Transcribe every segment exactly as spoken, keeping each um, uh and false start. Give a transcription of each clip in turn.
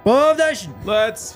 Both Nation. Let's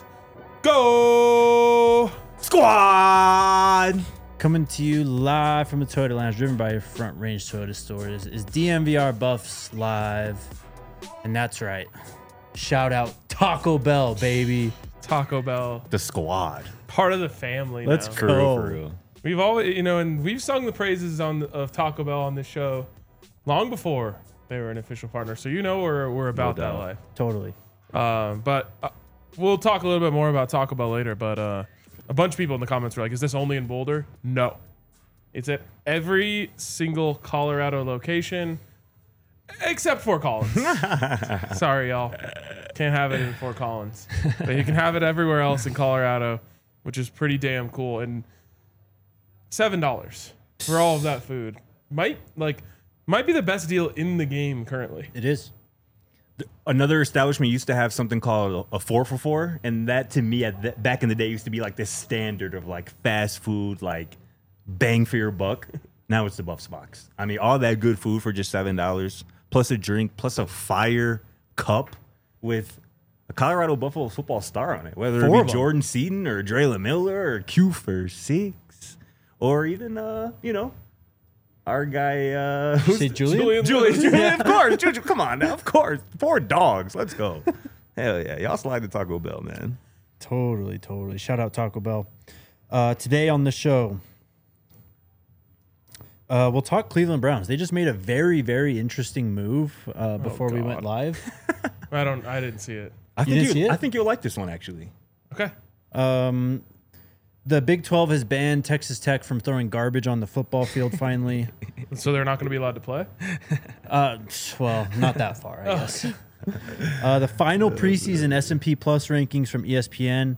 go. Squad. Coming to you live from the Toyota Lounge, driven by your Front Range Toyota stores, is D M V R Buffs Live. And that's right. Shout out Taco Bell, baby. Taco Bell, The squad. part of the family. Let's now. For real, go. for real. We've always, you know, and we've sung the praises on of Taco Bell on this show long before they were an official partner. So you know we're we're about No that doubt. life. Totally. Um, but uh, we'll talk a little bit more about Taco Bell later. But uh, a bunch of people in the comments were like, "Is this only in Boulder?" No, it's at every single Colorado location except Fort Collins. Sorry, y'all, can't have it in Fort Collins, but you can have it everywhere else in Colorado, which is pretty damn cool. And seven dollars for all of that food might like might be the best deal in the game currently. It is. Another establishment used to have something called a four for four, and that to me at th- back in the day used to be like this standard of like fast food, like bang for your buck. Now it's the Buffs box. I mean, all that good food for just seven dollars, plus a drink, plus a fire cup with a Colorado Buffalo football star on it, whether Four it of be 'em. Jordan Seaton or Draylen Miller or Q for six, or even uh, you know, our guy uh, who's Say Julian? Julian Julian, Lewis. Julian, of course. Julian, come on now, of course. Four dogs. Let's go. Hell yeah. Y'all slide to Taco Bell, man. Totally, totally. Shout out Taco Bell. Uh, today on the show, uh, we'll talk Cleveland Browns. They just made a very, very interesting move uh, before we went God. live. I don't. I didn't see it. I think didn't you, see it? I think you'll like this one actually. Okay. Um, the Big twelve has banned Texas Tech from throwing garbage on the football field finally. So they're not going to be allowed to play? Uh, well, not that far, I guess. Uh, the final preseason S and P Plus rankings from E S P N.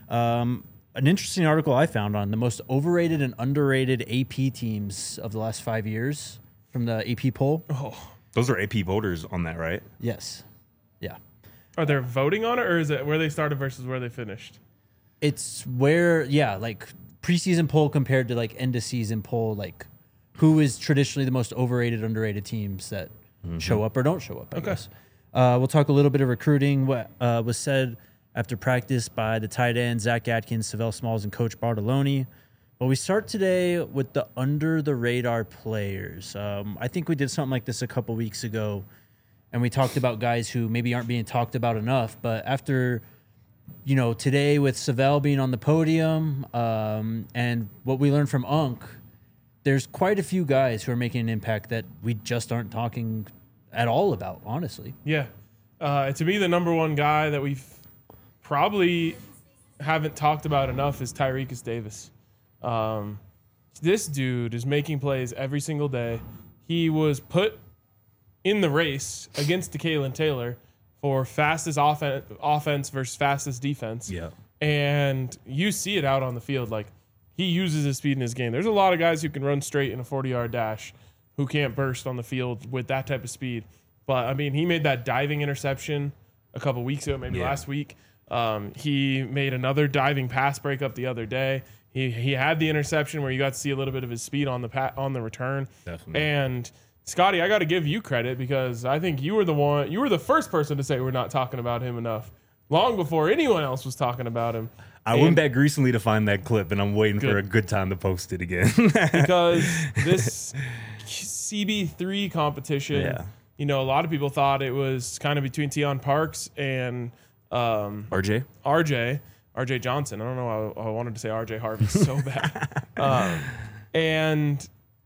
Um, an interesting article I found on the most overrated and underrated A P teams of the last five years from the A P poll. Oh. Those are A P voters on that, right? Yes. Yeah. Are they voting on it, or is it where they started versus where they finished? It's where, yeah, like preseason poll compared to like end of season poll, like who is traditionally the most overrated, underrated teams that show up or don't show up, I Okay. guess. Uh, we'll talk a little bit of recruiting. What uh, was said after practice by the tight end, Zach Atkins, Savell Smalls, and Coach Bartoloni. But we start today with the under-the-radar players. Um, I think we did something like this a couple weeks ago, and we talked about guys who maybe aren't being talked about enough. But after, you know, today with Savell being on the podium um, and what we learned from Unk, there's quite a few guys who are making an impact that we just aren't talking at all about, honestly. Yeah. Uh, to me, the number one guy that we've probably haven't talked about enough is Tyrekus Davis. Um, this dude is making plays every single day. He was put in the race against DeKalen Taylor for fastest offen- offense versus fastest defense. Yeah. And you see it out on the field. Like, he uses his speed in his game. There's a lot of guys who can run straight in a forty-yard dash who can't burst on the field with that type of speed. But, I mean, he made that diving interception a couple weeks ago, maybe Yeah. last week. Um, he made another diving pass breakup the other day. He he had the interception where you got to see a little bit of his speed on the pa- on the return. Definitely. And Scotty, I got to give you credit because I think you were the one, you were the first person to say we're not talking about him enough, long before anyone else was talking about him. I And went back recently to find that clip, and I'm waiting for Good. a good time to post it again. because this C B three competition, Yeah. you know, a lot of people thought it was kind of between Tion Parks and um, R J? R J, R J Johnson. I don't know. I, I wanted to say R J Harvey so bad. Um, and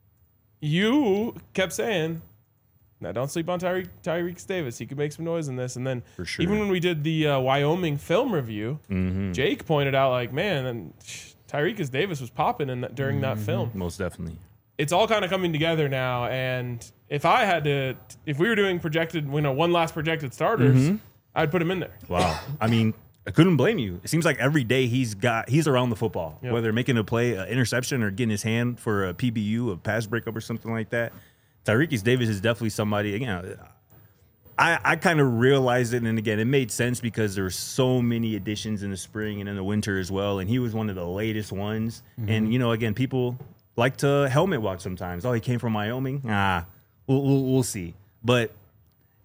you kept saying, now don't sleep on Tyre- Tyreek Davis. He could make some noise in this. And then For sure. even when we did the uh, Wyoming film review, Mm-hmm. Jake pointed out like, man, and Tyreek Davis was popping in that, during that film. Most definitely. It's all kind of coming together now. And if I had to, if we were doing projected, you know, one last projected starters, Mm-hmm. I'd put him in there. Wow. I mean, I couldn't blame you. It seems like every day he's got he's around the football, Yep. whether making a play, an interception, or getting his hand for a P B U, a pass breakup, or something like that. Tyreek Davis is definitely somebody. Again, I I kind of realized it, and again, it made sense because there were so many additions in the spring and in the winter as well, and he was one of the latest ones. And you know, again, people like to helmet watch sometimes. Oh, he came from Wyoming. Ah, we'll we'll, we'll see, but.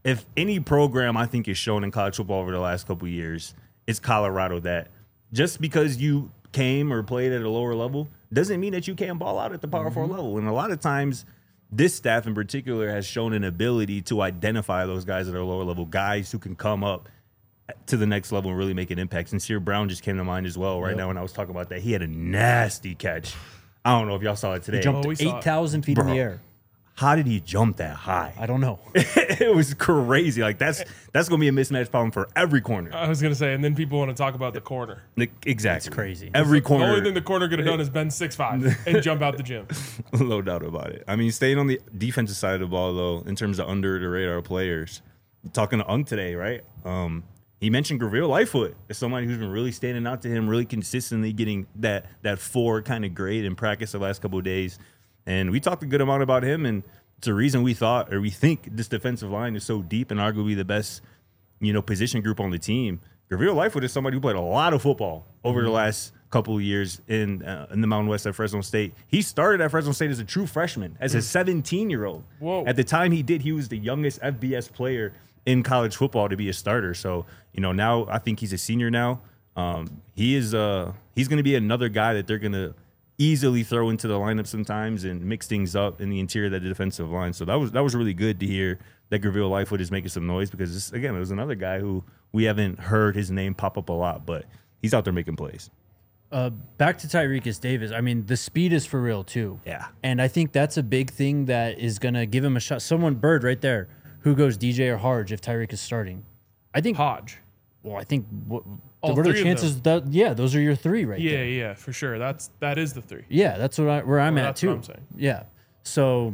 if any program I think is shown in college football over the last couple of years, it's Colorado. That just because you came or played at a lower level doesn't mean that you can't ball out at the Power mm-hmm. Four level. And a lot of times, this staff in particular has shown an ability to identify those guys at a lower level, guys who can come up to the next level and really make an impact. Sincere Brown just came to mind as well right yep. now when I was talking about that. He had a nasty catch. I don't know if y'all saw it today. He jumped oh, eight thousand feet Bro, in the air. How did he jump that high? I don't know. It was crazy. Like, that's that's going to be a mismatch problem for every corner. I was going to say, and then people want to talk about the corner. Exactly. It's crazy. Every the corner. The only thing the corner could have done is bend six five and jump out the gym. No doubt about it. I mean, staying on the defensive side of the ball, though, in terms of under-the-radar players, talking to Unk today, right? Um, he mentioned Gabriel Lightfoot as somebody who's been really standing out to him, really consistently getting that that four kind of grade in practice the last couple of days. And we talked a good amount about him, and it's a reason we thought or we think this defensive line is so deep and arguably the best, you know, position group on the team. Gabriel Lightfoot is somebody who played a lot of football over mm-hmm. the last couple of years in uh, in the Mountain West at Fresno State. He started at Fresno State as a true freshman, as a seventeen-year-old. Whoa. At the time he did, he was the youngest F B S player in college football to be a starter. So, you know, now I think he's a senior now. Um, he is uh, he's going to be another guy that they're going to easily throw into the lineup sometimes and mix things up in the interior of the defensive line. So that was that was really good to hear that Gabriel Lightfoot is making some noise because, this, again, it was another guy who we haven't heard his name pop up a lot, but he's out there making plays. Uh, back to Tyrekus Davis. I mean, the speed is for real, too. Yeah. And I think that's a big thing that is going to give him a shot. Someone, Bird right there, who goes D J or Hodge if Tyreek is starting? I think Hodge. Well, I think what, All what are three the chances that yeah, those are your three right yeah, there. Yeah, yeah, for sure. That's that is the three. Yeah, that's what I, where I'm well, at that's too. What I'm saying. Yeah. So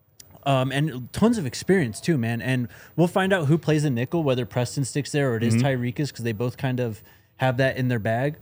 um and tons of experience too, man. And we'll find out who plays the nickel, whether Preston sticks there or it is mm-hmm. Tyrekus, because they both kind of have that in their bag.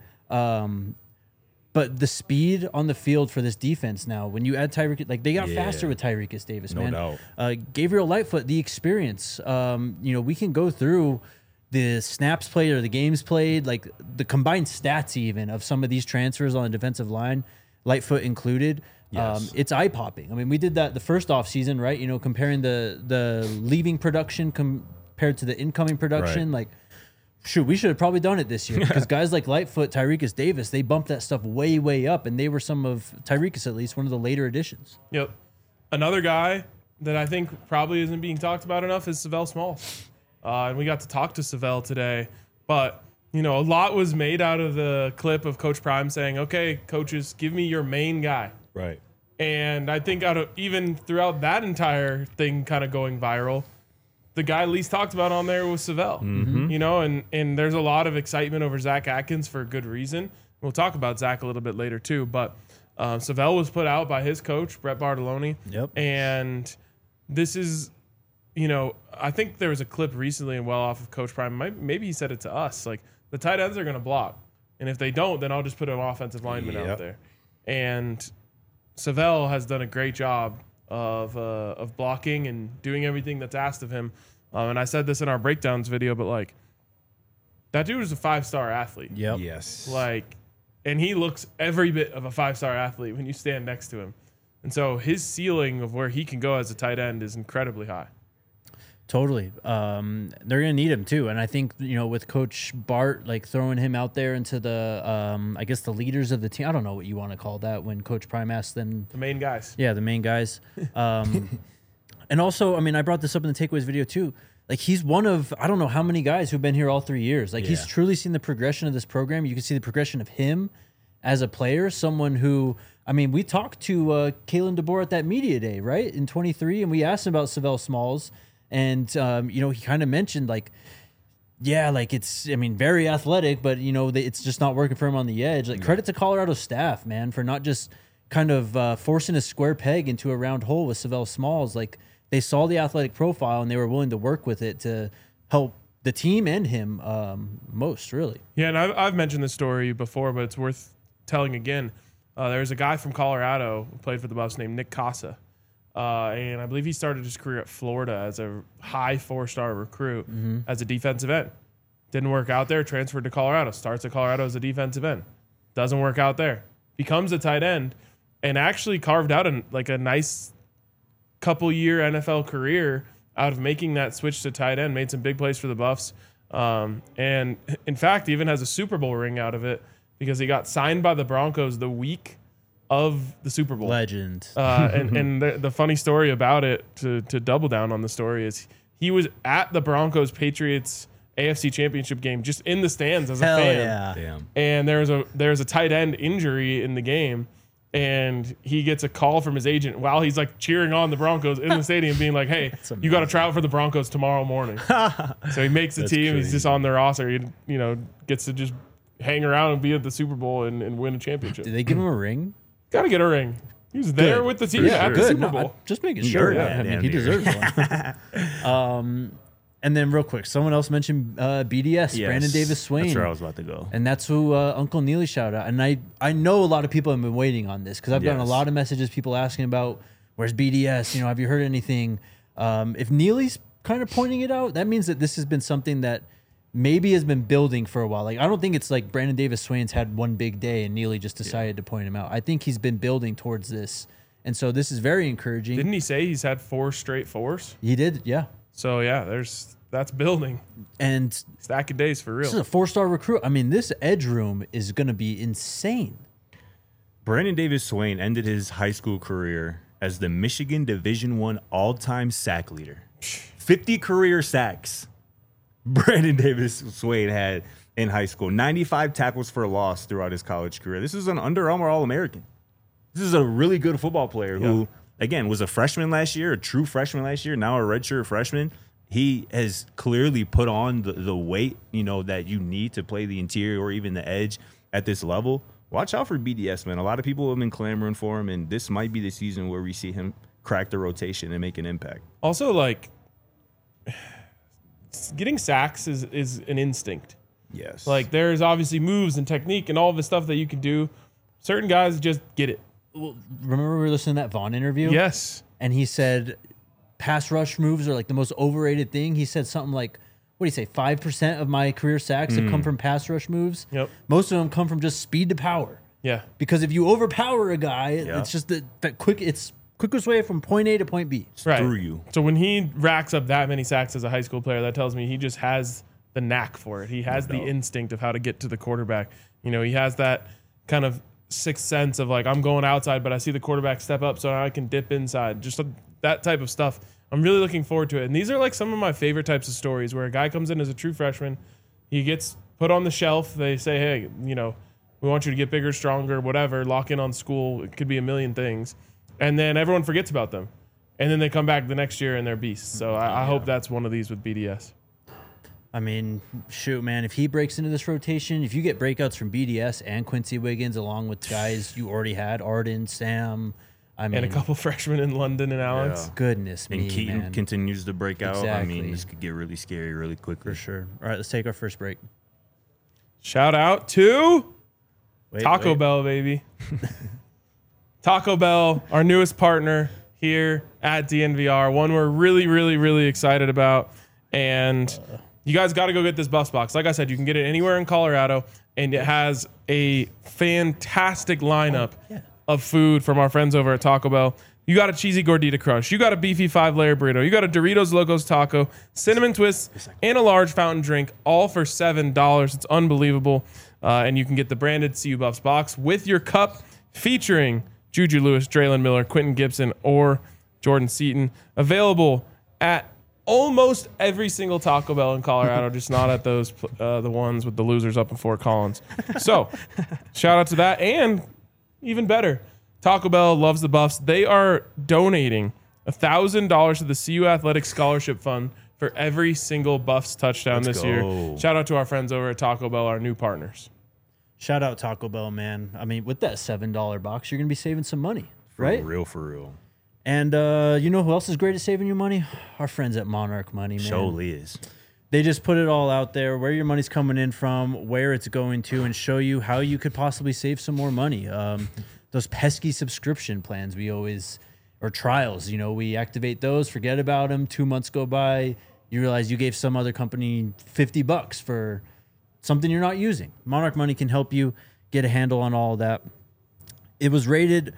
Um But the speed on the field for this defense now, when you add Tyreek, like they got yeah. faster with Tyrekus Davis, no man. Doubt. Uh, Gabriel Lightfoot, the experience. Um, you know, we can go through the snaps played or the games played, like the combined stats even of some of these transfers on the defensive line, Lightfoot included. Yes. Um, it's eye popping. I mean, we did that the first off season, right? You know, comparing the the leaving production compared to the incoming production, right. like. Shoot, we should have probably done it this year because guys like Lightfoot, Tyrekus Davis, they bumped that stuff way, way up, and they were some of Tyrekus at least one of the later additions. Yep. Another guy that I think probably isn't being talked about enough is Savell Smalls, uh, and we got to talk to Savell today. But you know, a lot was made out of the clip of Coach Prime saying, "Okay, coaches, give me your main guy." Right. And I think out of even throughout that entire thing, kind of going viral. The guy least talked about on there was Savell, mm-hmm. you know, and, and there's a lot of excitement over Zach Atkins for a good reason. We'll talk about Zach a little bit later too, but um, Savell was put out by his coach, Brett Bartoloni. Yep. And this is, you know, I think there was a clip recently and well off of Coach Prime. Maybe he said it to us, like the tight ends are going to block. And if they don't, then I'll just put an offensive lineman yep. out there. And Savell has done a great job of uh, of blocking and doing everything that's asked of him. Um, and I said this in our breakdowns video, but like that dude is a five-star athlete. Yep. Yes. Like, and he looks every bit of a five-star athlete when you stand next to him. And so his ceiling of where he can go as a tight end is incredibly high. Totally. Um, they're going to need him too. And I think, you know, with Coach Bart, like throwing him out there into the, um, I guess the leaders of the team, I don't know what you want to call that when Coach Prime asks them. The main guys. Yeah, the main guys. Um, and also, I mean, I brought this up in the takeaways video too. Like he's one of, I don't know how many guys who've been here all three years. Like yeah. he's truly seen the progression of this program. You can see the progression of him as a player, someone who, I mean, we talked to uh, Kalen DeBoer at that media day, right? In twenty-three, and we asked him about Savell Smalls. And, um, you know, he kind of mentioned, like, yeah, like it's, I mean, very athletic, but, you know, it's just not working for him on the edge. Like, yeah. credit to Colorado staff, man, for not just kind of uh, forcing a square peg into a round hole with Savell Smalls. Like, they saw the athletic profile and they were willing to work with it to help the team and him um, most, really. Yeah, and I've, I've mentioned this story before, but it's worth telling again. Uh, there's a guy from Colorado who played for the Buffs named Nick Casa. Uh, and I believe he started his career at Florida as a high four-star recruit mm-hmm. as a defensive end. Didn't work out there, transferred to Colorado, starts at Colorado as a defensive end. Doesn't work out there. Becomes a tight end and actually carved out a, like a nice couple-year N F L career out of making that switch to tight end, made some big plays for the Buffs. Um, and in fact, even has a Super Bowl ring out of it because he got signed by the Broncos the week of the Super Bowl. Legend. Uh, and and the, the funny story about it, to, to double down on the story, is he was at the Broncos Patriots A F C Championship game, just in the stands as a Hell fan. yeah. Damn. And there's a there's a tight end injury in the game, and he gets a call from his agent while he's like cheering on the Broncos in the stadium, being like, "Hey, you got to try out for the Broncos tomorrow morning." So he makes the That's team. He's crazy. just on their roster. He, you know, gets to just hang around and be at the Super Bowl and, and win a championship. Did they give him a ring? Got to get a ring. He was there Good. with the team For at sure. the Good. Super No, Bowl. I- just making He sure. earned Yeah, that, I mean, damn he near. deserves one. um, and then real quick, someone else mentioned uh, B D S, Yes. Brandon Davis Swain. That's where I was about to go. And that's who uh, Uncle Neely shouted out. And I, I know a lot of people have been waiting on this because I've gotten a Yes. lot of messages, people asking about where's B D S? You know, have you heard anything? Um, if Neely's kind of pointing it out, that means that this has been something that maybe has been building for a while. Like, I don't think it's like Brandon Davis Swain's had one big day and Neely just decided to point him out. I think he's been building towards this. And so this is very encouraging. Didn't he say he's had four straight fours? he did, yeah. So yeah, there's that's building. And Stack of days for this is real. a four-star recruit. I mean, this edge room is going to be insane. Brandon Davis Swain ended his high school career as the Michigan Division One all-time sack leader. fifty career sacks Brandon Davis Swain had in high school. ninety-five tackles for loss throughout his college career. This is an Under Armour All-American. This is a really good football player who, again, was a freshman last year, a true freshman last year, now a redshirt freshman. He has clearly put on the, the weight, you know, that you need to play the interior or even the edge at this level. Watch out for B D S, man. A lot of people have been clamoring for him, and this might be the season where we see him crack the rotation and make an impact. Also, like getting sacks is is an instinct. Yes. Like there's obviously moves and technique and all the stuff that you can do. Certain guys just get it. Well, remember we were listening to that Vaughn interview? Yes. And he said pass rush moves are like the most overrated thing. He said something like, what do you say, five percent of my career sacks have come from pass rush moves? Yep. Most of them come from just speed to power. Yeah. Because if you overpower a guy, Yeah. it's just the, that quick, it's quickest way from point A to point B. Right. through you. So when he racks up that many sacks as a high school player, that tells me he just has the knack for it. He has the doubt. instinct of how to get to the quarterback. You know, he has that kind of sixth sense of like, I'm going outside, but I see the quarterback step up, so now I can dip inside. Just that type of stuff. I'm really looking forward to it. And these are like some of my favorite types of stories where a guy comes in as a true freshman, he gets put on the shelf. They say, hey, you know, we want you to get bigger, stronger, whatever, lock in on school. It could be a million things. And then everyone forgets about them. And then they come back the next year and they're beasts. So I, I hope that's one of these with B D S. I mean, shoot, man, if he breaks into this rotation, if you get breakouts from B D S and Quincy Wiggins along with guys you already had, Arden, Sam, I mean, And a couple freshmen in London and Alex. Yeah. goodness And me, Keaton man. continues to break out. I Exactly. mean, this could get really scary really quickly. For sure. All right, let's take our first break. Shout out to Wait, Taco wait. Bell, baby. Taco Bell, our newest partner here at D N V R, one we're really, really, really excited about. And you guys got to go get this Buffs box. Like I said, you can get it anywhere in Colorado, and it has a fantastic lineup of food from our friends over at Taco Bell. You got a cheesy gordita crush. You got a beefy five-layer burrito. You got a Doritos Locos taco, cinnamon twists, and a large fountain drink, all for seven dollars. It's unbelievable. Uh, and you can get the branded C U Buffs box with your cup featuring Juju Lewis, Draylon Miller, Quentin Gibson, or Jordan Seaton. Available at almost every single Taco Bell in Colorado, just not at those uh, the ones with the losers up in Fort Collins. So, shout out to that. And even better, Taco Bell loves the Buffs. They are donating one thousand dollars to the C U Athletics Scholarship Fund for every single Buffs touchdown Let's this go. year. Shout out to our friends over at Taco Bell, our new partners. Shout out Taco Bell, man. I mean, with that seven dollar box, you're going to be saving some money, For right? real, for real. And uh, you know who else is great at saving you money? Our friends at Monarch Money, man. Surely is. They just put it all out there, where your money's coming in from, where it's going to, and show you how you could possibly save some more money. Um, those pesky subscription plans we always, or trials, you know, we activate those, forget about them. Two months go by, you realize you gave some other company fifty bucks for something you're not using. Monarch Money can help you get a handle on all of that. It was rated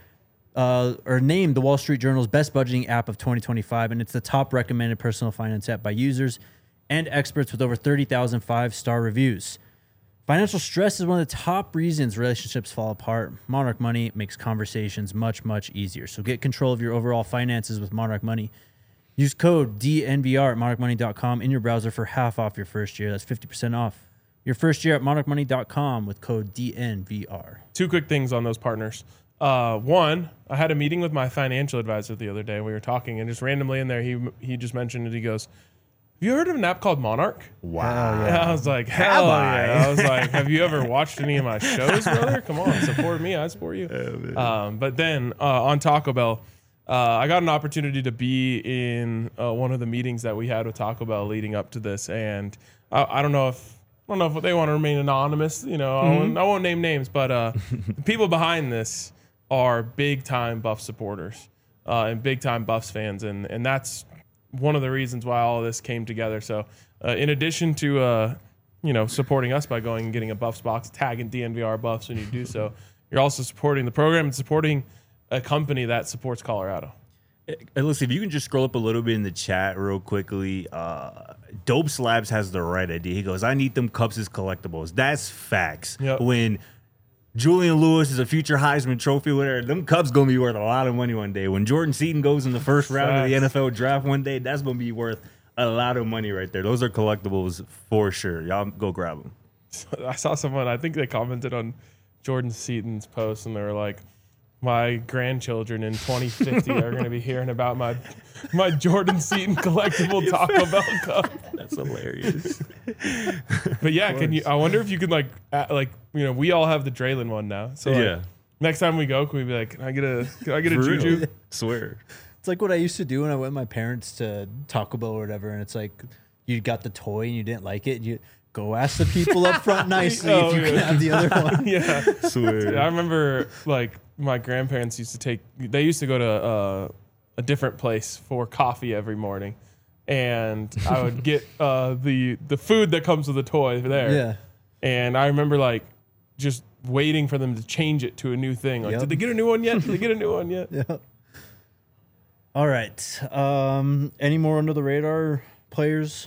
uh, or named the Wall Street Journal's best budgeting app of twenty twenty-five, and it's the top recommended personal finance app by users and experts with over thirty thousand five-star reviews. Financial stress is one of the top reasons relationships fall apart. Monarch Money makes conversations much, much easier. So get control of your overall finances with Monarch Money. Use code D N V R at monarch money dot com in your browser for half off your first year. That's fifty percent off your first year at monarch money dot com with code D N V R. Two quick things on those partners. Uh, one, I had a meeting with my financial advisor the other day. We were talking, and just randomly in there, he he just mentioned it. He goes, "Have you heard of an app called Monarch?" Wow. And I was like, hell I? yeah. I was like, have you ever watched any of my shows, brother? Come on, support me. I support you. Um, but then uh, on Taco Bell, uh, I got an opportunity to be in uh, one of the meetings that we had with Taco Bell leading up to this. And I, I don't know if I don't know if they want to remain anonymous. You know, mm-hmm. I, won't, I won't name names, but uh, the people behind this are big time Buffs supporters uh, and big time Buffs fans. And, and that's one of the reasons why all of this came together. So uh, in addition to, uh, you know, supporting us by going and getting a Buffs box, tagging D N V R Buffs when you do so, you're also supporting the program and supporting a company that supports Colorado. Hey, listen, if you can just scroll up a little bit in the chat real quickly. Uh, Dope Slabs has the right idea. He goes, I need them cups as collectibles. That's facts. Yep. When Julian Lewis is a future Heisman Trophy winner, them Cubs going to be worth a lot of money one day. When Jordan Seaton goes in the first round Facts. of the N F L draft one day, that's going to be worth a lot of money right there. Those are collectibles for sure. Y'all go grab them. I saw someone, I think they commented on Jordan Seaton's post, and they were like, my grandchildren in twenty fifty are going to be hearing about my my Jordan Seaton collectible Taco Bell cup. That's hilarious. But yeah, can you? I wonder if you could like, add, like you know, we all have the Draylen one now. So like, Yeah. next time we go, can we be like, can I get a, can I get a For Juju? real. Swear. It's like what I used to do when I went with my parents to Taco Bell or whatever, and it's like you got the toy and you didn't like it, and you go ask the people up front nicely Oh, if you yeah. can have the other one. Yeah. Swear. I remember like my grandparents used to take, they used to go to uh, a different place for coffee every morning. And I would get uh, the the food that comes with the toy there. Yeah. And I remember like just waiting for them to change it to a new thing. Like, Yep. did they get a new one yet? Did they get a new one yet? Yeah. All right. Um, any more under the radar players?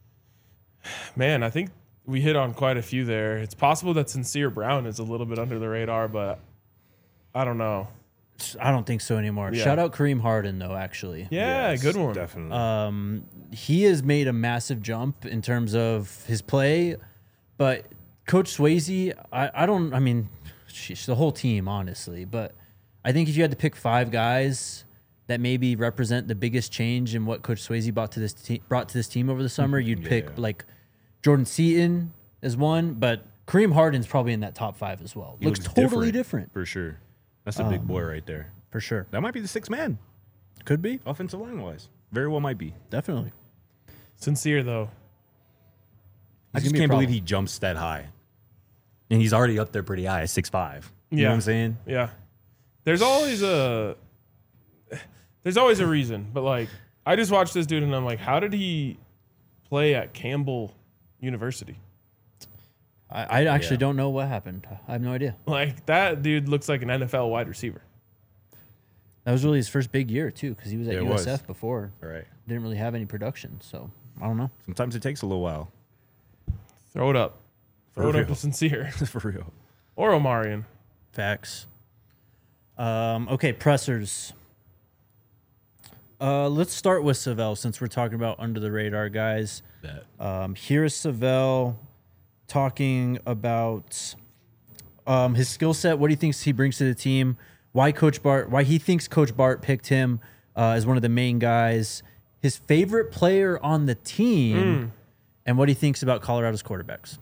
Man, I think we hit on quite a few there. It's possible that Sincere Brown is a little bit under the radar, but I don't know. I don't think so anymore. Yeah. Shout out Kareem Harden, though, actually. Yeah, Yes, good one. Definitely. Um, he has made a massive jump in terms of his play, but Coach Swayze, I, I don't, I mean, sheesh, the whole team, honestly, but I think if you had to pick five guys that maybe represent the biggest change in what Coach Swayze brought to this te- brought to this team over the summer, you'd Yeah. pick like Jordan Seaton as one, but Kareem Harden's probably in that top five as well. He Looks, looks totally different. For sure. That's a big boy right there. for sure. That might be the sixth man, Could be, offensive line wise. Very well might be. definitely. Sincere, though. I He's just gonna be a can't believe problem. he jumps that high. And he's already up there pretty high at six five. You Yeah. know what I'm saying? Yeah. There's always a there's always a reason, but like I just watched this dude and I'm like, how did he play at Campbell University? I, I actually Yeah. don't know what happened. I have no idea. Like that dude looks like an N F L wide receiver. That was really his first big year too, because he was at Yeah, it U S F was. before. All right. Didn't really have any production, so I don't know. Sometimes it takes a little while. Throw it up. Throw For it up real. to Sincere For real. or Omarion. Facts. Um, okay, pressers. Uh, let's start with Savell since we're talking about under the radar guys. That. Um, here is Savell talking about um, his skill set, what he thinks he brings to the team, why Coach Bart, why he thinks Coach Bart picked him uh, as one of the main guys, his favorite player on the team, and what he thinks about Colorado's quarterbacks.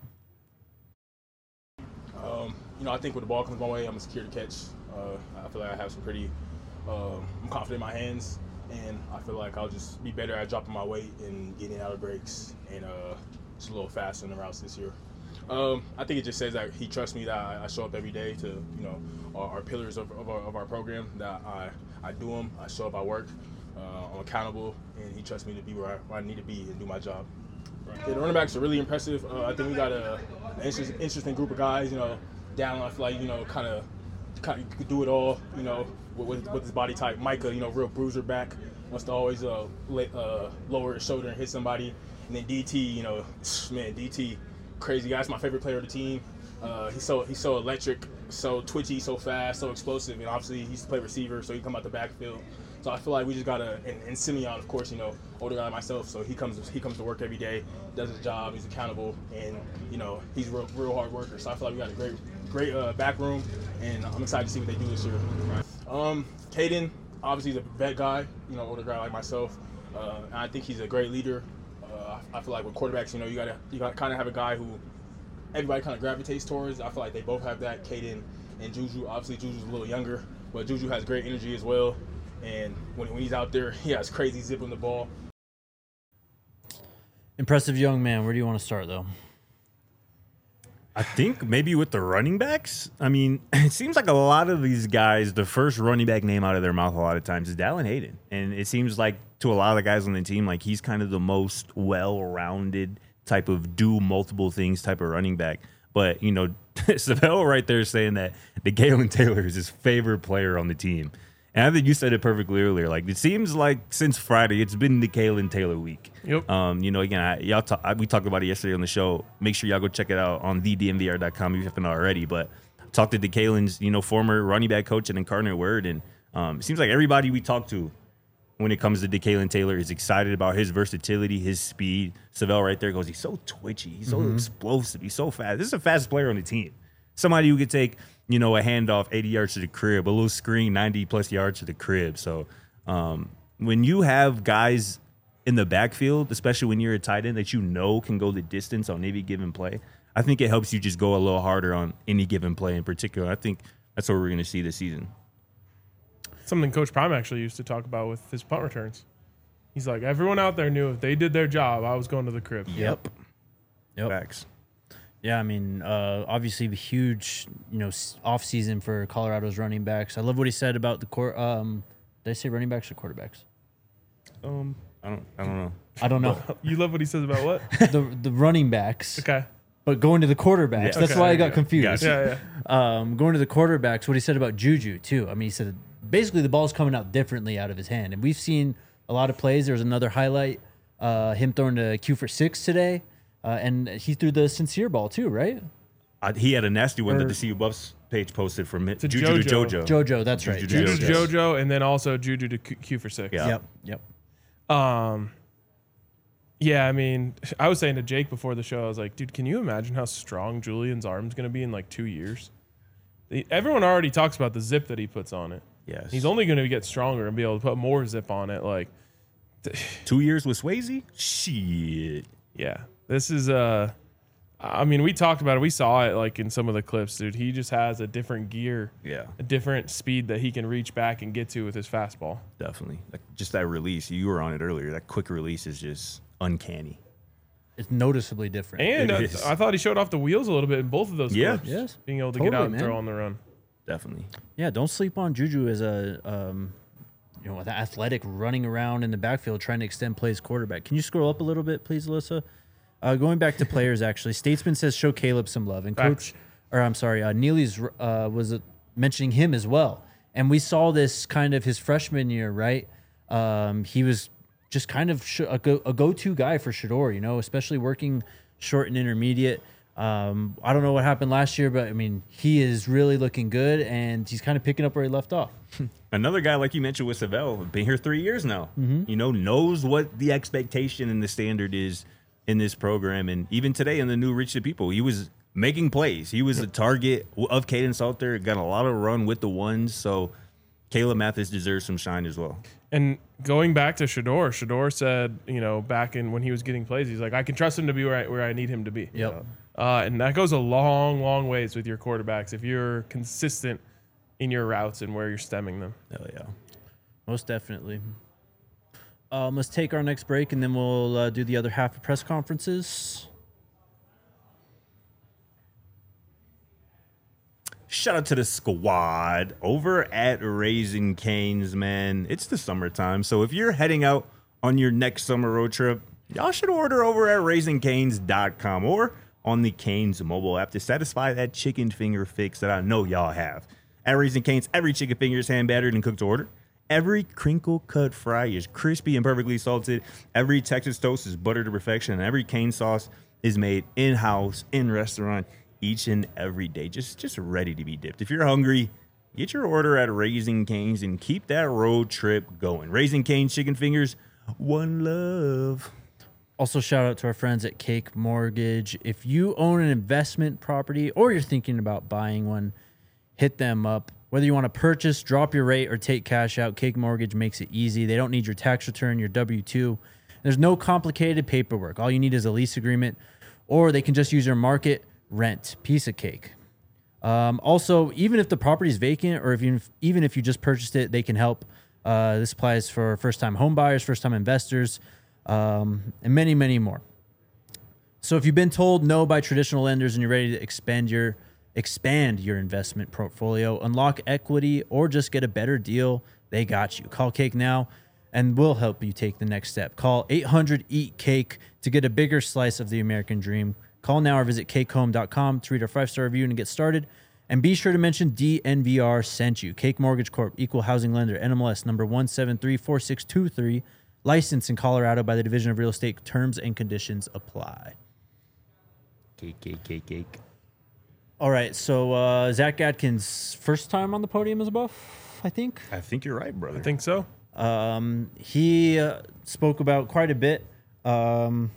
Um, you know, I think when the ball comes my way, I'm a secure to catch. Uh, I feel like I have some pretty, um, I'm confident in my hands, and I feel like I'll just be better at dropping my weight and getting out of breaks and uh, just a little faster in the routes this year. Um, I think it just says that he trusts me, that I, I show up every day to, you know, our, our pillars of, of, our, of our program, that I, I do them, I show up, I work, uh, I'm accountable, and he trusts me to be where I, where I need to be and do my job. Yeah, the running backs are really impressive. Uh, I think we got a, an interest, interesting group of guys, you know. Down, I feel like, you know, kind of kind of could do it all, you know, with, with, with his body type. Micah, you know, real bruiser back, wants to always uh, let, uh, lower his shoulder and hit somebody. And then D T, you know, man, D T, crazy guy. He's my favorite player of the team. Uh, he's so he's so electric, so twitchy, so fast, so explosive, and obviously he used to play receiver, so he come out the backfield. So I feel like we just gotta, and, and Simeon, of course, you know, older guy myself, so he comes he comes to work every day, does his job, he's accountable, and you know he's real real hard worker. So I feel like we got a great great uh, back room, and I'm excited to see what they do this year. Right. Um, Caden, obviously he's a vet guy, you know, older guy like myself, uh, and I think he's a great leader. Uh, I feel like with quarterbacks, you know, you gotta you gotta kind of have a guy who everybody kind of gravitates towards. I feel like they both have that. Caden and Juju. Obviously, Juju's a little younger, but Juju has great energy as well. And when, when he's out there, he has crazy zip on the ball. Impressive young man. Where do you want to start, though? I think maybe with the running backs. I mean, it seems like a lot of these guys, the first running back name out of their mouth a lot of times is Dallin Hayden. And it seems like to a lot of the guys on the team, like he's kind of the most well-rounded type of do multiple things type of running back. But, you know, Savell right there saying that DeKalen Taylor is his favorite player on the team. And I think you said it perfectly earlier. Like, it seems like since Friday, it's been DeKalen Taylor week. Yep. Um, you know, again, I, y'all talk, I, we talked about it yesterday on the show. Make sure y'all go check it out on the D M V R dot com if you haven't already. But talked to DeKalen's, you know, former running back coach and Incarnate Word. And um, it seems like everybody we talk to when it comes to DeKalen Taylor is excited about his versatility, his speed. Savell right there goes, he's so twitchy. He's so mm-hmm. explosive. He's so fast. This is the fastest player on the team. Somebody who could take, you know, a handoff eighty yards to the crib, a little screen ninety plus yards to the crib. So um, when you have guys in the backfield, especially when you're a tight end that you know can go the distance on any given play, I think it helps you just go a little harder on any given play in particular. I think that's what we're going to see this season. Something Coach Prime actually used to talk about with his punt returns. He's like, everyone out there knew if they did their job, I was going to the crib. Yep. Yep. Facts. Yeah, I mean, uh, obviously a huge, you know, off season for Colorado's running backs. I love what he said about the court. Um, did I say running backs or quarterbacks? Um, I don't, I don't know. I don't know. You love what he says about what? the the running backs. Okay. But going to the quarterbacks, Yeah. that's Okay, why I yeah, got yeah. confused. Gotcha. Yeah, yeah. Um, going to the quarterbacks, what he said about Juju too. I mean, he said basically the ball's coming out differently out of his hand, and we've seen a lot of plays. There was another highlight, uh, him throwing to Q for six today, uh, and he threw the sincere ball too, right? I, he had a nasty one Or- that the C U Buffs page posted from it. To Juju to JoJo. JoJo. JoJo, that's right. Juju Juju Yes. to JoJo, and then also Juju to Q, Q for six. Yeah. Yep, yep. Um, yeah, I mean, I was saying to Jake before the show, I was like, dude, can you imagine how strong Julian's arm's going to be in like two years? The, everyone already talks about the zip that he puts on it. Yes. He's only going to get stronger and be able to put more zip on it. Like, Two years with Swayze? Shit. yeah, this is, uh, I mean, we talked about it. We saw it like in some of the clips, dude. He just has a different gear, Yeah, a different speed that he can reach back and get to with his fastball. definitely. Like, just that release. You were on it earlier. That quick release is just uncanny. It's noticeably different. And It uh, is. I thought he showed off the wheels a little bit in both of those Yeah. clips. Yes. Being able to Totally, get out and man. throw on the run. Definitely. Yeah, don't sleep on Juju as a um, you know, the athletic running around in the backfield trying to extend plays quarterback. Can you scroll up a little bit, please, Alyssa? Uh, going back to players, actually, Statesman says show Caleb some love, and Facts. Coach, or I'm sorry, uh, Neely's uh, was uh, mentioning him as well, and we saw this kind of his freshman year, right? Um, he was just kind of sh- a, go- a go-to guy for Shador, you know, especially working short and intermediate. Um, I don't know what happened last year, but I mean, he is really looking good, and he's kind of picking up where he left off. Another guy, like you mentioned with Savell, been here three years now. Mm-hmm. You know, knows what the expectation and the standard is in this program. And even today in the new Reach the People, he was making plays. He was the target of Caden Salter, got a lot of run with the ones. So Caleb Mathis deserves some shine as well. And going back to Shador, Shador said, you know, back in when he was getting plays, he's like, I can trust him to be where I, where I need him to be. Yep. Uh, and that goes a long, long ways with your quarterbacks if you're consistent in your routes and where you're stemming them. Hell yeah. Most definitely. Um, let's take our next break, and then we'll uh, do the other half of press conferences. Shout out to the squad over at Raising Cane's, man. It's the summertime, so if you're heading out on your next summer road trip, y'all should order over at raising canes dot com or on the Cane's mobile app to satisfy that chicken finger fix that I know y'all have. At Raising Cane's, every chicken finger is hand battered and cooked to order. Every crinkle cut fry is crispy and perfectly salted. Every Texas toast is buttered to perfection. And every cane sauce is made in-house, in restaurant, each and every day. Just, just ready to be dipped. If you're hungry, get your order at Raising Cane's and keep that road trip going. Raising Cane's chicken fingers, one love. Also, shout out to our friends at Cake Mortgage. If you own an investment property or you're thinking about buying one, hit them up. Whether you want to purchase, drop your rate, or take cash out, Cake Mortgage makes it easy. They don't need your tax return, your W two. There's no complicated paperwork. All you need is a lease agreement, or they can just use your market rent. Piece of cake. Um, also, even if the property is vacant, or if you, even if you just purchased it, they can help. Uh, this applies for first-time home buyers, first-time investors, um, and many, many more. So if you've been told no by traditional lenders and you're ready to expand your expand your investment portfolio, unlock equity, or just get a better deal, they got you. Call Cake now, and we'll help you take the next step. Call eight hundred eat cake to get a bigger slice of the American dream. Call now or visit cake home dot com to read our five-star review and get started. And be sure to mention D N V R sent you. Cake Mortgage Corp, Equal Housing Lender, N M L S number one seven three four six two three, licensed in Colorado by the Division of Real Estate. Terms and conditions apply. Cake, cake, cake, cake. All right, so uh, Zach Adkins' first time on the podium as a Buff, I think. I think you're right, brother. I think so. Um, he uh, spoke about quite a bit. Um,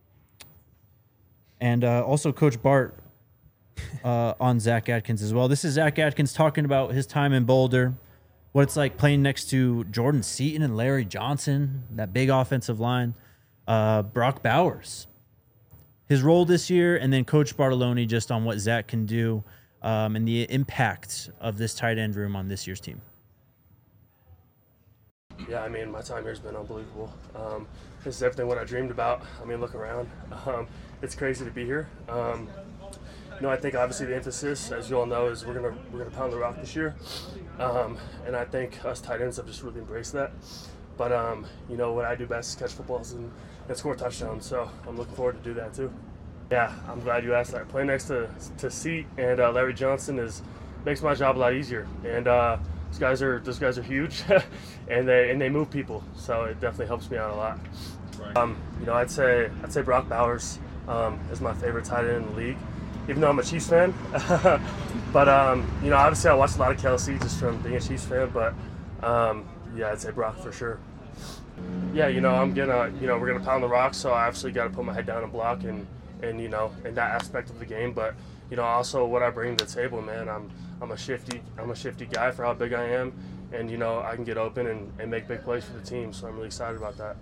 and uh, also Coach Bart uh, on Zach Adkins as well. This is Zach Adkins talking about his time in Boulder, what it's like playing next to Jordan Seaton and Larry Johnson, that big offensive line, uh, Brock Bowers, his role this year, and then Coach Bartoloni just on what Zach can do um, and the impact of this tight end room on this year's team. Yeah, I mean, my time here has been unbelievable. Um, this is everything what I dreamed about. I mean, look around. Um, it's crazy to be here. Um, you know, I think obviously the emphasis, as you all know, is we're gonna we're gonna pound the rock this year, um, and I think us tight ends have just really embraced that. But um, you know, what I do best is catch footballs and, and score touchdowns. So I'm looking forward to do that too. Yeah, I'm glad you asked that. Playing next to to Seat and uh, Larry Johnson is makes my job a lot easier. And uh, those guys are those guys are huge, and they and they move people. So it definitely helps me out a lot. Right. Um, you know, I'd say I'd say Brock Bowers um, is my favorite tight end in the league, even though I'm a Chiefs fan. But um, you know, obviously I watch a lot of Kelsey just from being a Chiefs fan. But um, yeah, I'd say Brock for sure. Yeah, you know, I'm gonna, you know, we're gonna pound the rock, so I obviously got to put my head down and block, and, and you know, in that aspect of the game. But you know, also what I bring to the table, man. I'm, I'm a shifty, I'm a shifty guy for how big I am, and you know, I can get open and, and make big plays for the team. So I'm really excited about that.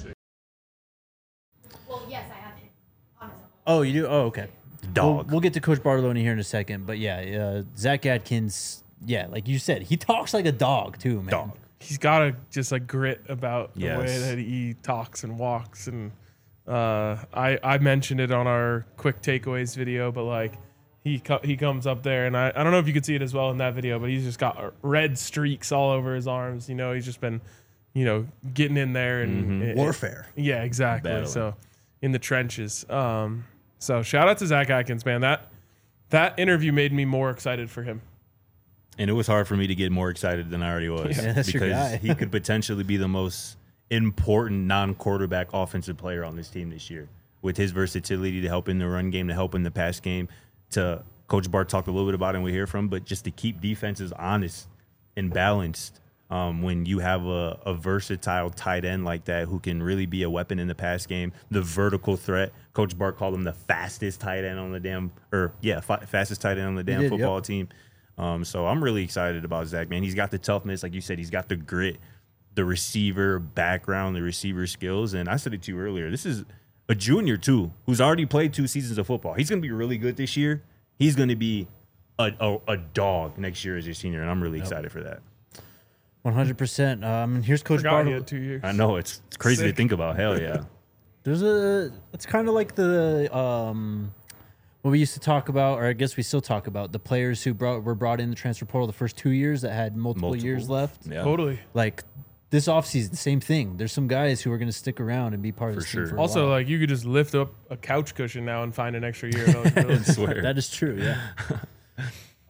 Well, yes, I have it. Honestly. Oh, you do? Oh, okay. Dog. We'll, we'll get to Coach Bartoloni here in a second, but yeah, uh, Zach Adkins, yeah, like you said, he talks like a dog too, man. Dog. He's got a just a grit about the Yes. way that he talks and walks, and uh, I I mentioned it on our quick takeaways video, but like he co- he comes up there, and I, I don't know if you could see it as well in that video, but he's just got red streaks all over his arms. You know, he's just been, you know, getting in there and Mm-hmm. it- Warfare. yeah, exactly. Battling. So in the trenches. Um, so shout out to Zach Adkins, man. That that interview made me more excited for him. And it was hard for me to get more excited than I already was. Yeah, that's your because guy. he could potentially be the most important non-quarterback offensive player on this team this year. With his versatility to help in the run game, to help in the pass game, to Coach Bart talked a little bit about it and we hear from, but just to keep defenses honest and balanced um, when you have a, a versatile tight end like that who can really be a weapon in the pass game, the vertical threat. Coach Bart called him the fastest tight end on the damn, or yeah, fa- fastest tight end on the damn did, football yep. team. Um, so I'm really excited about Zach, man. He's got the toughness, like you said. He's got the grit, the receiver background, the receiver skills. And I said it to you earlier. This is a junior, too, who's already played two seasons of football. He's going to be really good this year. He's going to be a, a, a dog next year as a senior, and I'm really excited for that. one hundred percent. Um, and here's Coach Forgot he Bartoloni. had two years. I know. It's, it's crazy Sick. to think about. Hell yeah. There's a, it's kind of like the, um, what we used to talk about, or I guess we still talk about, the players who brought were brought in the transfer portal the first two years that had multiple, Multiple. years left. Yeah. Totally. Like this offseason, the same thing. There's some guys who are going to stick around and be part of For this team sure. for a Also, while. like you could just lift up a couch cushion now and find an extra year. That was really- I swear. That is true, yeah.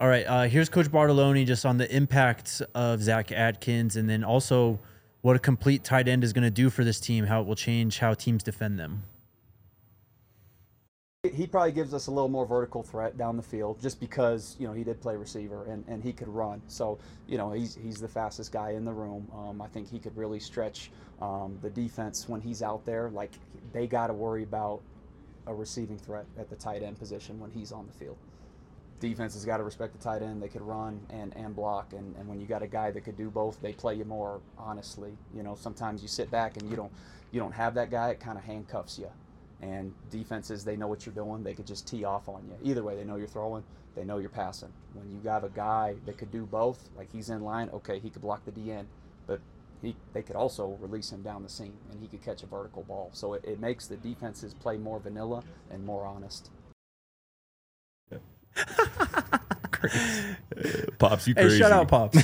All right, uh, here's Coach Bartoloni just on the impact of Zach Adkins, and then also what a complete tight end is going to do for this team, how it will change how teams defend them. He probably gives us a little more vertical threat down the field just because, you know, he did play receiver and, and he could run. So, you know, he's, he's the fastest guy in the room. Um, I think he could really stretch um, the defense when he's out there. Like, they got to worry about a receiving threat at the tight end position when he's on the field. Defense has got to respect the tight end. They could run and, and block. And, and when you got a guy that could do both, they play you more honestly. You know, sometimes you sit back and you don't, you don't have that guy, it kind of handcuffs you. And defenses, they know what you're doing. They could just tee off on you. Either way, they know you're throwing. They know you're passing. When you have a guy that could do both, like he's in line, okay, he could block the D N, but he they could also release him down the seam, and he could catch a vertical ball. So it, it makes the defenses play more vanilla and more honest. Pops, you Hey, crazy. shout out, Pops.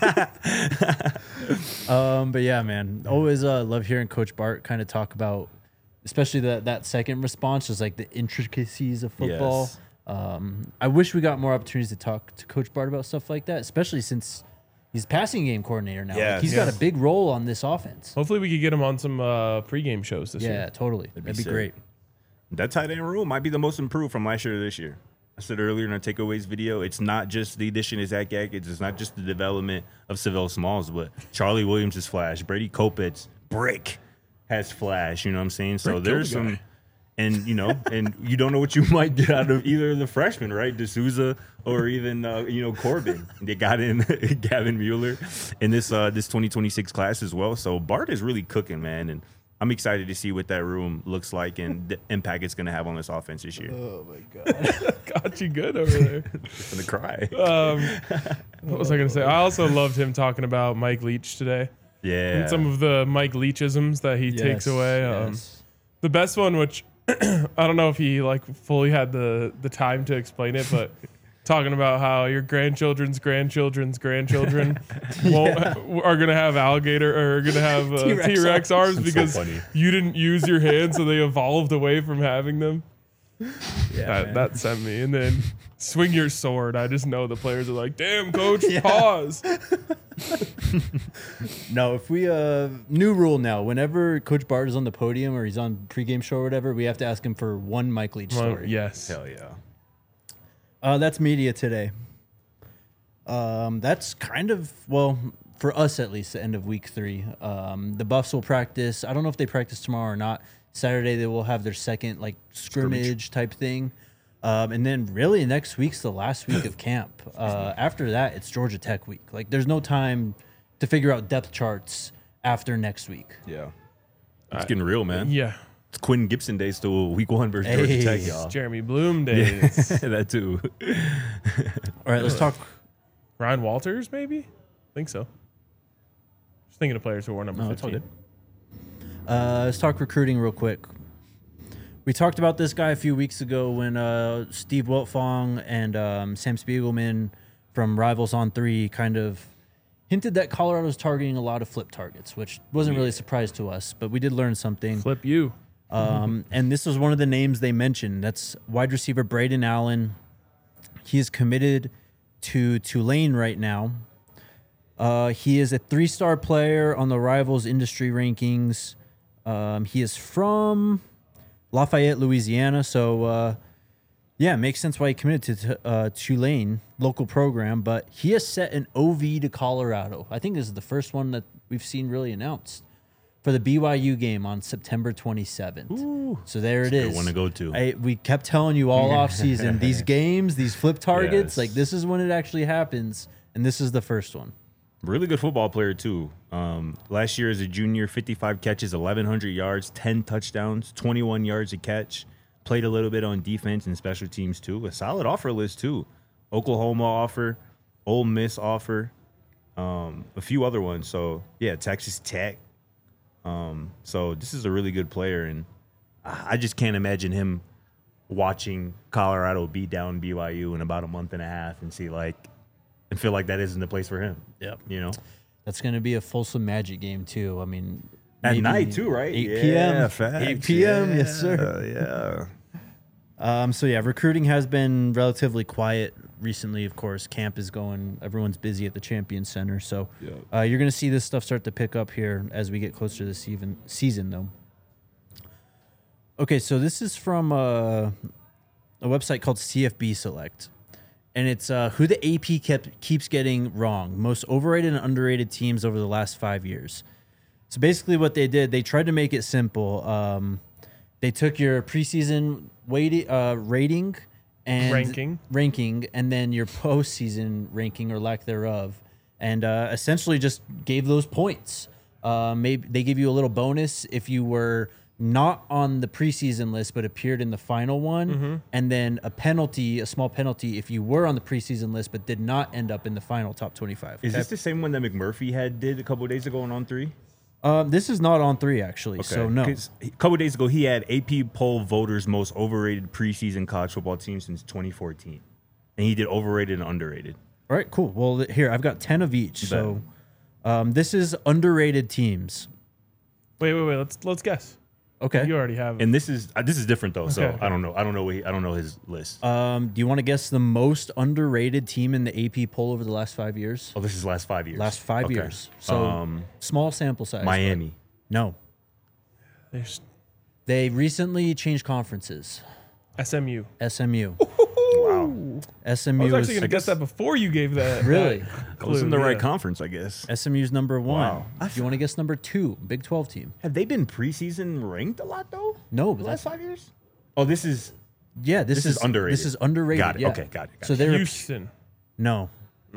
um, but yeah, man, always uh, love hearing Coach Bart kind of talk about, especially that that second response, just like the intricacies of football. Yes. Um, I wish we got more opportunities to talk to Coach Bart about stuff like that, especially since he's passing game coordinator now. Like, Yes. he's Yeah. got a big role on this offense. Hopefully, we could get him on some uh, pregame shows this Yeah, year. totally. That'd be, sick. great. That tight end room might be the most improved from last year to this year. I said earlier in our takeaways video, it's not just the addition of Zach Adkins, it's not just the development of Savell Smalls, but Charlie Williams is flash, Brady Kopitz, brick, has flash. You know what I'm saying? So Brick there's killed the some, guy. and you know, and you don't know what you might get out of either of the freshmen, right? D'Souza or even uh, you know Corbin. They got in Gavin Mueller in this uh, this twenty twenty-six class as well. So Bart is really cooking, man, and I'm excited to see what that room looks like and the impact it's going to have on this offense this year. Oh my god. Got you good over there. I'm going to cry. Um, what was I going to say? I also loved him talking about Mike Leach today. Yeah. And some of the Mike Leachisms that he takes away. Um, Yes. the best one, which I don't know if he like fully had the the time to explain it, but talking about how your grandchildren's grandchildren's grandchildren won't, are gonna have alligator or are gonna have uh, T-Rex T-Rex arms That's so because funny. you didn't use your hands, so they evolved away from having them. Yeah, That, man. that sent me. And then swing your sword. I just know the players are like, damn, coach, pause. No, if we uh new rule now, whenever Coach Bart is on the podium or he's on pregame show or whatever, we have to ask him for one Mike Leach Well, story. yes. Hell yeah. Uh, that's media today. Um, that's kind of, well, for us at least, the end of week three. Um, the Buffs will practice. I don't know if they practice tomorrow or not. Saturday they will have their second like scrimmage, Scrimmage. type thing. Um, and then really next week's the last week of camp. Uh, after that, it's Georgia Tech week. Like there's no time to figure out depth charts after next week. Yeah. It's getting real, man. Yeah. It's Quentin Gibson Day still week one versus Georgia Hey. Tech, y'all. Jeremy Bloom days. that too. All right, let's talk. Ryan Walters, maybe? I think so. Just thinking of players who wore number No, it's all fifteen. good. Uh, let's talk recruiting real quick. We talked about this guy a few weeks ago when uh, Steve Wiltfong and um, Sam Spiegelman from Rivals on Three kind of hinted that Colorado's targeting a lot of flip targets, which wasn't really a surprise to us, but we did learn something. Flip you. Um, and this was one of the names they mentioned. That's wide receiver Braden Allen. He is committed to Tulane right now. Uh, he is a three-star player on the Rivals industry rankings. Um, he is from Lafayette, Louisiana. So, uh, yeah, it makes sense why he committed to uh, Tulane, local program. But he has set an O V to Colorado. I think this is the first one that we've seen really announced for the B Y U game on September twenty-seventh. So there it Good is. one to go to. I, we kept telling you all off season, these games, these flip targets, Yes. like this is when it actually happens. And this is the first one. Really good football player too. Um, last year as a junior, fifty-five catches, eleven hundred yards, ten touchdowns, twenty-one yards a catch. Played a little bit on defense and special teams too. A solid offer list too. Oklahoma offer, Ole Miss offer, um, a few other ones. So yeah, Texas Tech. Um, so this is a really good player, and I I just can't imagine him watching Colorado beat down B Y U in about a month and a half and see like and feel like that isn't the place for him. Yep. You know, That's going to be a Folsom Magic game, too. I mean, at maybe night too, right? eight p.m. eight p.m. Yes, sir. Yeah. Um, so, yeah, recruiting has been relatively quiet recently, of course, camp is going. Everyone's busy at the Champions Center, so Yeah. uh, you're going to see this stuff start to pick up here as we get closer to the season. Season though. Okay, so this is from uh, a website called C F B Select, and it's uh, who the A P kept keeps getting wrong: most overrated and underrated teams over the last five years. So basically, what they did, they tried to make it simple. Um, they took your preseason weight, uh, rating and Ranking. ranking, and then your postseason ranking or lack thereof, and uh, essentially just gave those points. Uh, maybe they give you a little bonus if you were not on the preseason list but appeared in the final one, Mm-hmm. and then a penalty, a small penalty, if you were on the preseason list but did not end up in the final top twenty-five. Is okay? this the same one that McMurphy had did a couple of days ago on On Three? Um, this is not on three actually, so no. 'Cause A couple of days ago, he had A P poll voters most overrated preseason college football team since twenty fourteen, and he did overrated and underrated. All right, cool. Well, th- here I've got ten of each. So, um, this is underrated teams. Wait, wait, wait. Let's let's guess. Okay. You already have it. And this is uh, this is different though, so Okay, okay. I don't know. I don't know. What he, I don't know his list. Um, do you want to guess the most underrated team in the A P poll over the last five years? oh, this is last five years. Last five Okay. years. So um, small sample size. but Miami. No, There's they recently changed conferences. S M U. S M U. Wow, S M I U was actually is going to guess that before you gave that. really that I was in the clue, right yeah. conference, I guess. S M U's number one. Wow. Do you want to guess number two? Big twelve team. Have they been preseason ranked a lot though? No, The but last that's five years. Oh, this is yeah. This, This is underrated. This is underrated. Got it. yeah. Okay, got it, got so it. they're Houston. no.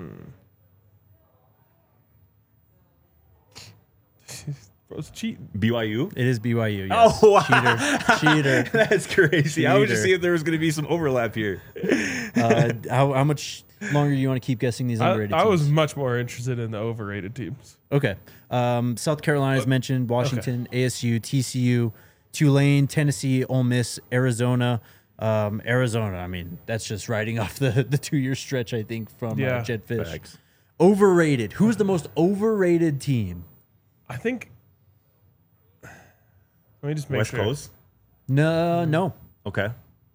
Bro, it's cheating. B Y U. It is B Y U. Yes. Oh, wow. cheater, cheater. That's crazy. I was just Cheater. seeing if there was going to be some overlap here. Uh, how, how much longer do you want to keep guessing these I, underrated I was teams? much more interested in the overrated teams. Okay. Um, South Carolina is mentioned, Washington, A S U, T C U, Tulane, Tennessee, Ole Miss, Arizona. Um, Arizona, I mean, that's just riding off the, the two-year stretch, I think, from Yeah. uh, Jed Fish. Facts. Overrated. Who's the most overrated team? I think. Let me just make West sure. Coast. No, no. Okay.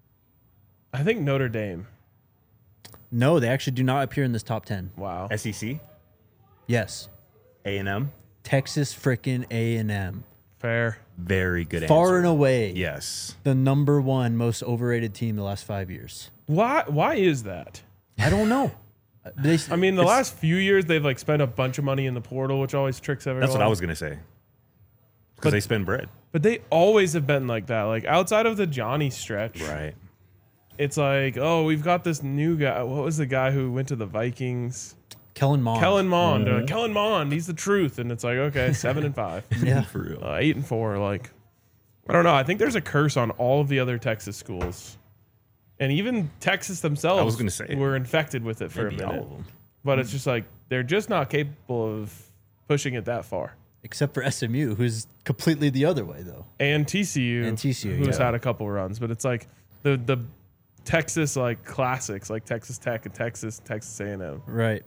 I think Notre Dame. No, they actually do not appear in this top ten. Wow. S E C. Yes. A and M. Texas frickin' A and M. Fair. Very good Far answer. and away. Yes. The number one most overrated team the last five years. Why? Why is that? I don't know. They, I mean, the it's- last few years they've like spent a bunch of money in the portal, which always tricks everyone. That's what I was going to say. Because But- they spend bread. But they always have been like that. Like outside of the Johnny stretch, Right. it's like, oh, we've got this new guy. What was the guy who went to the Vikings? Kellen Mond. Kellen Mond. They're Mm-hmm. like, Kellen Mond, he's the truth. And it's like, okay, seven and five, Yeah. For real. uh, eight and four. Like, I don't know. I think there's a curse on all of the other Texas schools, and even Texas themselves. I was gonna say, were infected with it for Maybe a all minute. of them. But it's just like they're just not capable of pushing it that far. Except for S M U, who's completely the other way, though. And T C U, And T C U, who's yeah. had a couple runs, but it's like the the Texas like classics, like Texas Tech and Texas Texas A and M. Right.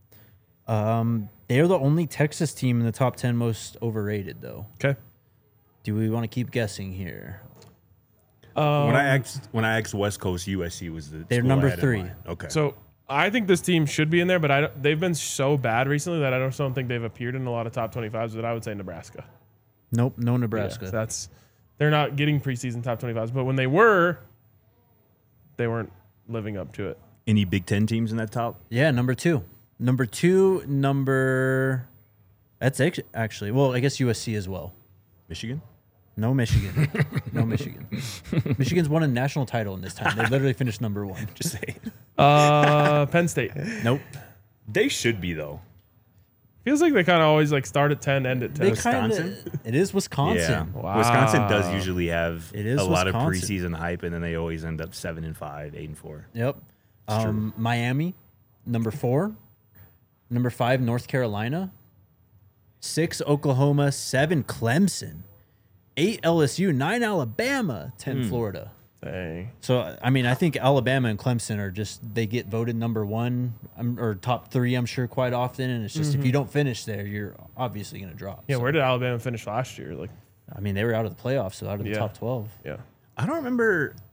Um, they are the only Texas team in the top ten most overrated, though. Okay. Do we want to keep guessing here? Um, when I asked when I asked West Coast, U S C was the They're school I number had in three. mind. Okay. So I think this team should be in there, but I don't, they've been so bad recently that I don't, don't think they've appeared in a lot of top twenty-fives. That I would say Nebraska. Nope, no Yeah, Nebraska. so that's they're not getting preseason top twenty-fives, but when they were, they weren't living up to it. Any Big Ten teams in that top? yeah, number two. Number two, number. That's act- actually, well, I guess U S C as well. Michigan. No Michigan. no Michigan. Michigan's won a national title in this time. They literally finished number one. Just say. Uh, Penn State Nope. They should be though. feels like they kind of always like start at ten, end at ten. They kind of. Wisconsin? It is Wisconsin. Yeah. Wow. Wisconsin does usually have It is a lot of Wisconsin. preseason hype, and then they always end up seven and five, eight and four. Yep. Um, Miami, number four. Number five, North Carolina. Six, Oklahoma. Seven, Clemson. Eight, L S U. Nine, Alabama. Ten, Hmm. Florida. Dang. So, I mean, I think Alabama and Clemson are just, they get voted number one um, or top three, I'm sure, quite often. And it's just, if you don't finish there, you're obviously going to drop. Yeah, So, where did Alabama finish last year? Like, I mean, they were out of the playoffs, so out of the Yeah. top twelve. yeah. I don't remember.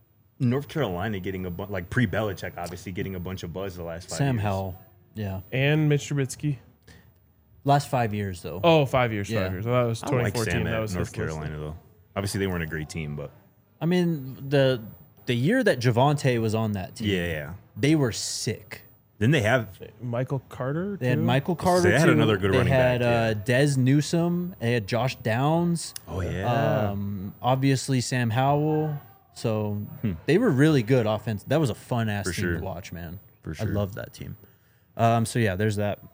North Carolina getting a bunch, like pre-Belichick, obviously getting a bunch of buzz the last five Sam years. Howell. Yeah. And Mitch Trubisky. Last five years, though. Oh, five years, Yeah. five years. Well, that was I twenty like fourteen. Sam that at was North his list. Carolina, though. Obviously, they weren't a great team, but I mean, the the year that Javante was on that team, yeah, yeah. they were sick. Then they have Michael Carter. They had too? Michael Carter. They had too. another good they running had, back, uh, Dez Newsome. They had Josh Downs. oh yeah, Um, obviously Sam Howell. So they were really good offense. That was a fun ass For team sure. to watch, man. For I sure. loved that team. Um, so yeah, there's that.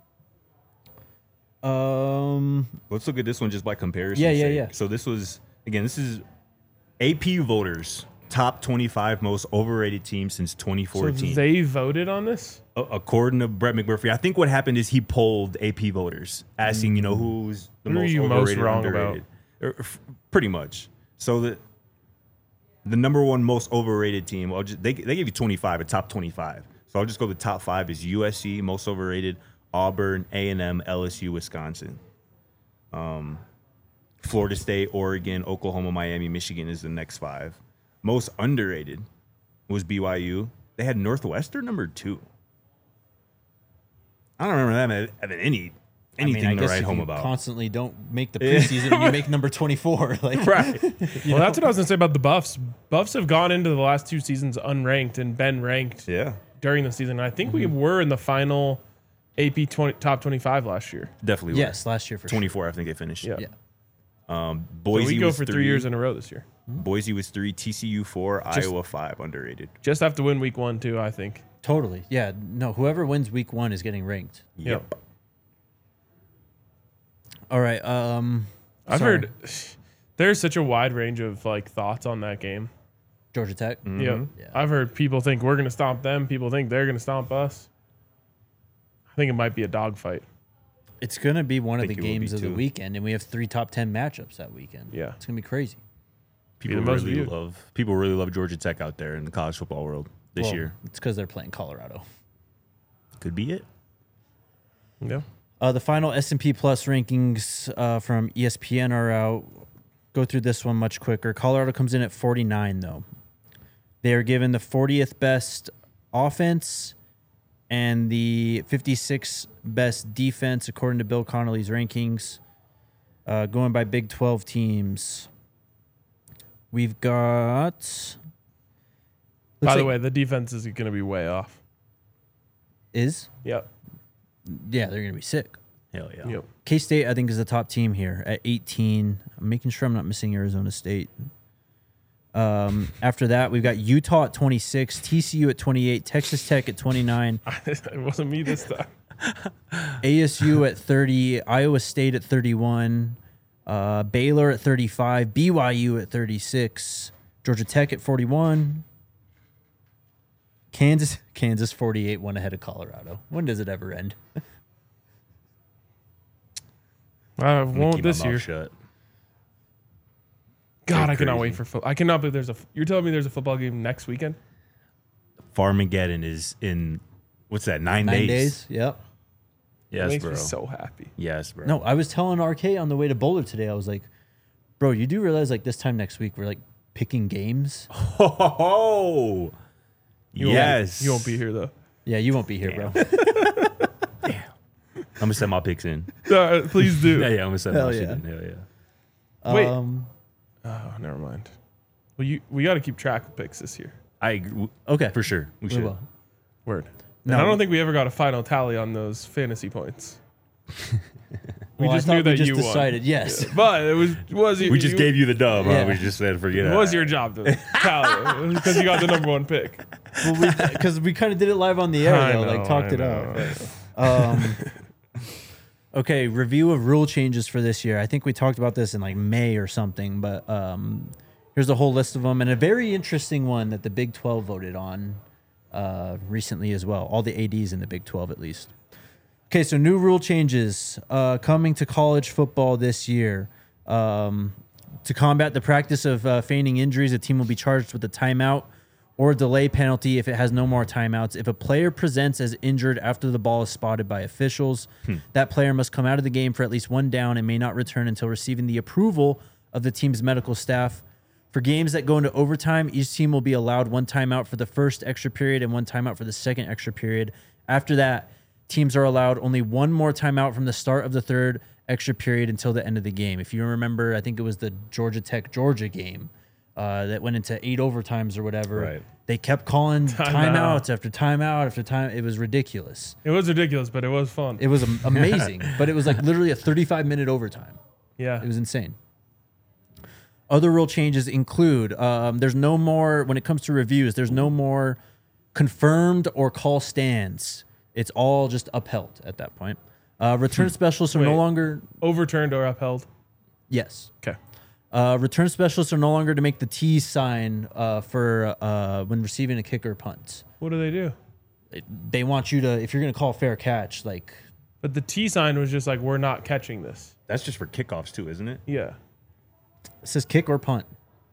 Um, let's look at this one just by comparison. Yeah, yeah, sake. yeah. So this was again, this is A P voters top twenty-five most overrated teams since twenty So fourteen. they voted on this. A- According to Brett McMurphy, I think what happened is he polled A P voters, asking you know who's the Who are most you most overrated, wrong underrated, Or, f- pretty much. So the the number one most overrated team, I'll just, they they gave you twenty-five, a top twenty-five. So I'll just go the top five is U S C most overrated, Auburn, A and M, L S U, Wisconsin. Um, Florida State, Oregon, Oklahoma, Miami, Michigan is the next five. Most underrated was B Y U. They had Northwestern number two. I don't remember them having any anything I mean, I to guess write if home you about. constantly don't make the preseason, you make number twenty-four. Like, Right. Well, that's what I was gonna say about the Buffs. Buffs have gone into the last two seasons unranked and been ranked Yeah. during the season. I think we Mm-hmm. were in the final A P twenty, top twenty-five last year. Definitely. were. yes, last year for twenty-four, I think they finished. Yeah. sure. Yeah. Um, So Boise we go was for three years in a row this year. Boise was three, T C U four, Just- Iowa five, underrated. Just have to win week one too. I think. Totally. Yeah. No, whoever wins week one is getting ranked. Yep. All right. Um, I've sorry. heard there's such a wide range of like thoughts on that game. Georgia Tech. Mm-hmm. Yeah. Yeah. I've heard people think we're gonna stomp them. People think they're gonna stomp us. I think it might be a dogfight. It's going to be one of the think it will be games of the too. weekend, and we have three top ten matchups that weekend. Yeah. It's going to be crazy. People the most really viewed. love people really love Georgia Tech out there in the college football world this Well, year. It's because they're playing Colorado. Could be it. Yeah. Uh, the final S and P Plus rankings uh, from E S P N are out. Go through this one much quicker. Colorado comes in at forty-nine, though. They are given the fortieth best offense and the fifty-sixth best defense, according to Bill Connolly's rankings, uh, going by Big twelve teams. We've got... By looks the like- way, the defense is going to be way off. Is? Yep. Yeah, they're going to be sick. Hell yeah. Yep. K-State, I think, is the top team here at eighteen. I'm making sure I'm not missing Arizona State. Um, after that, we've got Utah at twenty-six, T C U at twenty-eight, Texas Tech at twenty-nine, It wasn't me this time. A S U at thirty, Iowa State at thirty-one, uh, Baylor at thirty-five, B Y U at thirty-six, Georgia Tech at forty-one, Kansas Kansas forty-eight, one ahead of Colorado. When does it ever end? I I'm gonna won't keep my this mouth year. shut. God, They're I cannot crazy. wait for football. I cannot believe there's a. You're telling me there's a football game next weekend? Farmageddon is in what's that? Nine, Nine days. days. Yep. That Yes, makes bro. me so happy. Yes, bro. No, I was telling R K on the way to Boulder today. I was like, "Bro, you do realize like this time next week we're like picking games." Oh, You won't- yes. you won't be here though. Yeah, you won't be here, bro. I'm gonna set my picks in. Uh, please do. Yeah, yeah. I'm gonna set Hell my shit yeah. in. Hell yeah. Wait. Um, Oh, never mind. Well, you we got to keep track of picks this year. I agree. okay, For sure. We We should. will. Word. No. And I don't think we ever got a final tally on those fantasy points. We Well, I just thought knew that we just you decided. won. Yes. But it was was you, We just you, gave you the dub. Yeah. Huh? We just said forget It it. was your job to tally because you got the number one pick. Because we, kind of did it live on the air, I though, know, like talked I it know, out. Um, okay, review of rule changes for this year. I think we talked about this in like May or something, but um, here's a whole list of them and a very interesting one that the Big twelve voted on uh, recently as well. All the A Ds in the Big twelve, at least. Okay, so new rule changes uh, coming to college football this year. Um, to combat the practice of uh, feigning injuries, a team will be charged with a timeout or delay penalty if it has no more timeouts. If a player presents as injured after the ball is spotted by officials, that player must come out of the game for at least one down and may not return until receiving the approval of the team's medical staff. For For games that go into overtime, each team will be allowed one timeout for the first extra period and one timeout for the second extra period. After that, teams are allowed only one more timeout from the start of the third extra period until the end of the game. If you remember, I think it was the Georgia Tech Georgia game uh, that went into eight overtimes or whatever. Right. They kept calling Timeout. timeouts after timeout after time. It was ridiculous. It was ridiculous, but it was fun. It was am- amazing, but it was like literally a thirty-five minute overtime. yeah. It was insane. Other rule changes include um, there's no more, when it comes to reviews, there's no more confirmed or call stands. It's all just upheld at that point. Uh, return specialists are no Wait. longer, Overturned or upheld. yes. Okay. Uh, return specialists are no longer to make the T sign uh, for uh, when receiving a kick or punt. What do they do? It- they want you to, if you're going to call a fair catch, like, But the T sign was just like, we're not catching this. That's just for kickoffs too, isn't it? Yeah. it says kick or punt.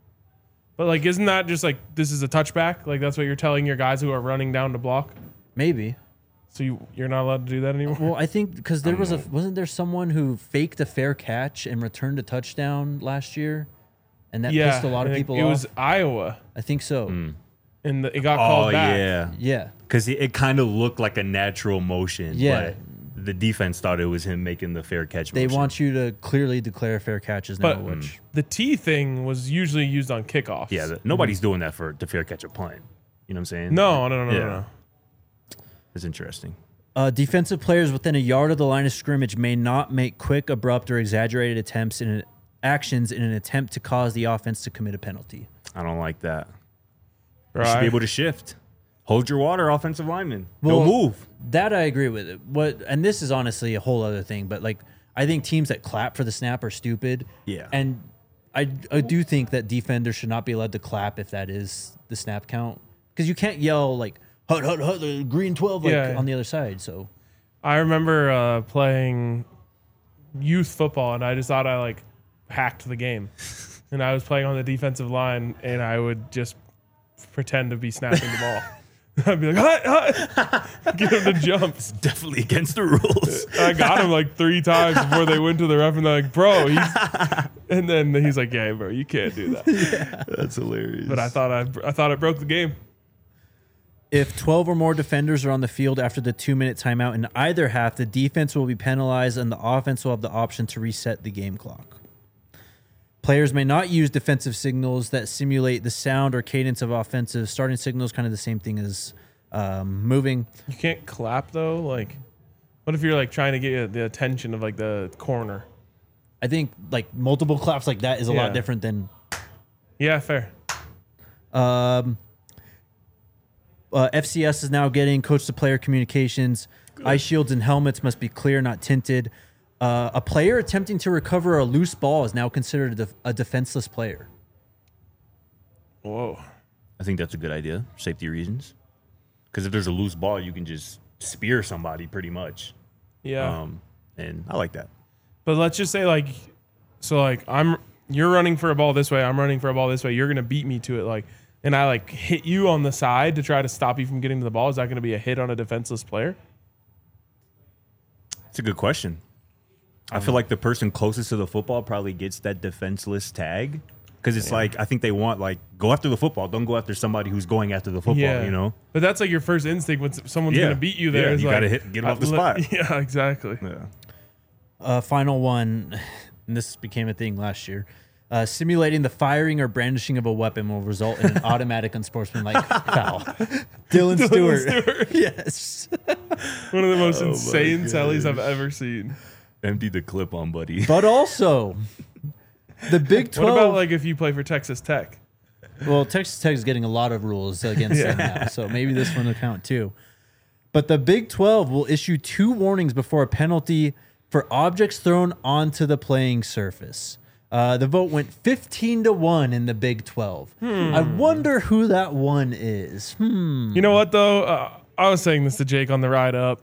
But like, isn't that just like, this is a touchback? Like, that's what you're telling your guys who are running down to block? Maybe. So you, you're not allowed to do that anymore? Well, I think because there was a wasn't there someone who faked a fair catch and returned a touchdown last year, and that yeah. pissed a lot of I think people It off. was Iowa, I think so. and the, it got Oh called back. yeah, Yeah, because it, it kind of looked like a natural motion. Yeah. but the defense thought it was him making the fair catch. they motion. want you to clearly declare fair catches now. But which the T thing was usually used on kickoffs. Yeah, the, nobody's doing that for the fair catch or punt. You know what I'm saying? No, no, no, no, Yeah. no, no. It's interesting. uh, defensive players within a yard of the line of scrimmage may not make quick, abrupt, or exaggerated attempts in an, actions in an attempt to cause the offense to commit a penalty. I don't like that. You Right. should be able to shift. Hold your water, offensive lineman. Well, Don't move. That I agree with. It. What and this is honestly a whole other thing, but like I think teams that clap for the snap are stupid. Yeah. And I I do think that defenders should not be allowed to clap if that is the snap count, because you can't yell like hut hut hut the green twelve like Yeah. on the other side. So I remember uh, playing youth football, and I just thought I like hacked the game. And I was playing on the defensive line, and I would just pretend to be snapping the ball. I'd be like, hut, hut, get him to jump. Definitely against the rules. I got him like three times before they went to the ref, and they're like, bro, he's. And then he's like, yeah, bro, you can't do that. That's hilarious. But I thought I, I thought it broke the game. if twelve or more defenders are on the field after the two minute timeout in either half, the defense will be penalized and the offense will have the option to reset the game clock. Players may not use defensive signals that simulate the sound or cadence of offensive. Starting signals, kind of the same thing as um, moving. You can't clap though. Like, what if you're like trying to get the attention of like the corner? I think like multiple claps like that is a Yeah. lot different than Yeah, fair. um, uh, F C S is now getting coach to player communications. Eye shields and helmets must be clear, not tinted. Uh, a player attempting to recover a loose ball is now considered a, def- a defenseless player. Whoa. I think that's a good idea, safety reasons. Because if there's a loose ball, you can just spear somebody pretty much. Yeah. Um, and I like that. But let's just say like, so like I'm, you're running for a ball this way. I'm running for a ball this way. You're gonna beat me to it, like, and I like hit you on the side to try to stop you from getting to the ball. Is that gonna be a hit on a defenseless player? It's a good question. I feel like the person closest to the football probably gets that defenseless tag. Because it's like, I think they want, like, go after the football. Don't go after somebody who's going after the football, you know? But that's like your first instinct when s- someone's Yeah. gonna beat you. There, Yeah, is you like, gotta hit- get 'em I- off the li- spot. Yeah, exactly. Yeah. Uh, final one, and this became a thing last year. Uh, simulating the firing or brandishing of a weapon will result in an automatic unsportsmanlike foul. Dylan Stewart. Stewart. Yes. One of the most Oh my insane sellies I've gosh. ever seen. Empty the clip on, buddy. But also, the Big What twelve. about like if you play for Texas Tech? Well, Texas Tech is getting a lot of rules against them now, so maybe this one will count too. But the Big twelve will issue two warnings before a penalty for objects thrown onto the playing surface. Uh, the vote went fifteen to one in the Big twelve. I wonder who that one is. Hmm. You know what though? Uh, I was saying this to Jake on the ride up.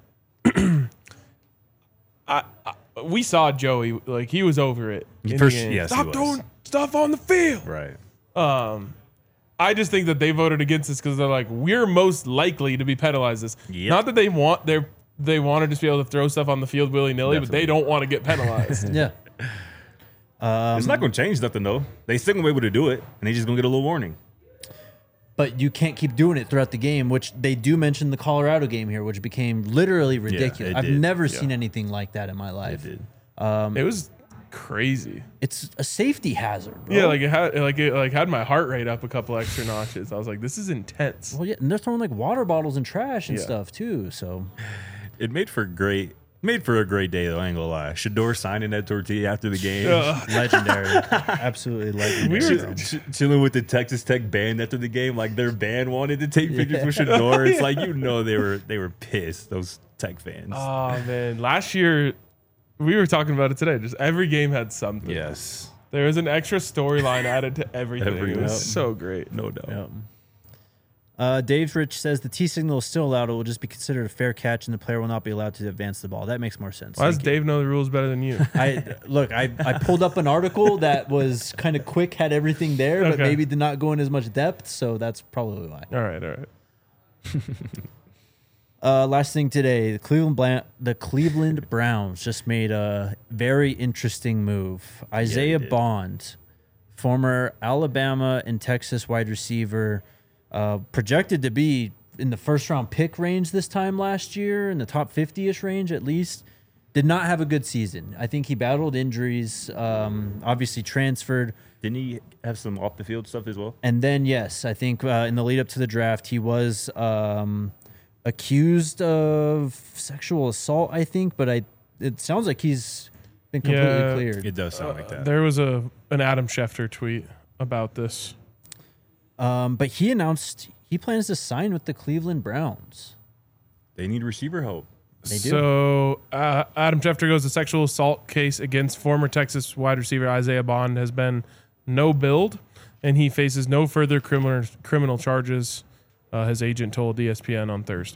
I, I we saw Joey, like he was over it. in For the sh- game. yes, he Stop was. throwing stuff on the field. Right. Um, I just think that they voted against this because they're like, we're most likely to be penalized this. Yep. Not that they want their they want to just be able to throw stuff on the field willy nilly, but they Definitely. don't want to get penalized. Yeah. Um, It's not going to change nothing though. They still gonna be able to do it, and they just gonna get a little warning. But you can't keep doing it throughout the game, which they do mention the Colorado game here, which became literally ridiculous. it I've did. never seen anything like that in my life. did. It was crazy. It's a safety hazard, bro. Yeah, like it had like it like had my heart rate up a couple extra notches. I was like, this is intense. well, yeah, and they're throwing like water bottles and trash and Yeah. stuff too. So It made for great, made for a great day though. I ain't gonna lie. Shador signing that tortilla after the game. Ugh. legendary, absolutely legendary. We Ch- were- ch- chilling with the Texas Tech band after the game, like their band wanted to take pictures with Shador. It's like you know they were they were pissed. Those Tech fans. Oh man, last year we were talking about it today. Just every game had something. yes, There was an extra storyline added to everything. Every- it was Yep. so great. no doubt. Yep. Uh, Dave Rich says the T signal is still allowed. It will just be considered a fair catch, and the player will not be allowed to advance the ball. That makes more sense. Why does Thank you. Dave know the rules better than you? I look. I, I pulled up an article that was kind of quick, had everything there, but Okay. maybe did not go in as much depth. So that's probably why. all right, all right. Uh, last thing today, the Cleveland Bla- the Cleveland Browns just made a very interesting move. Isaiah did. Bond, former Alabama and Texas wide receiver, uh, projected to be in the first round pick range this time last year, in the top fifty-ish range at least, did not have a good season. I think he battled injuries, um, obviously transferred. Didn't he have some off the field stuff as well? And then, yes, I think uh, in the lead up to the draft, he was um, accused of sexual assault, I think, but I it sounds like he's been completely Yeah. cleared. It does sound like that. There was a an Adam Schefter tweet about this. Um, but he announced he plans to sign with the Cleveland Browns. They need receiver help. They do. So uh, Adam Schefter goes, the sexual assault case against former Texas wide receiver Isaiah Bond has been no billed, and he faces no further criminal criminal charges. Uh, his agent told E S P N on Thursday.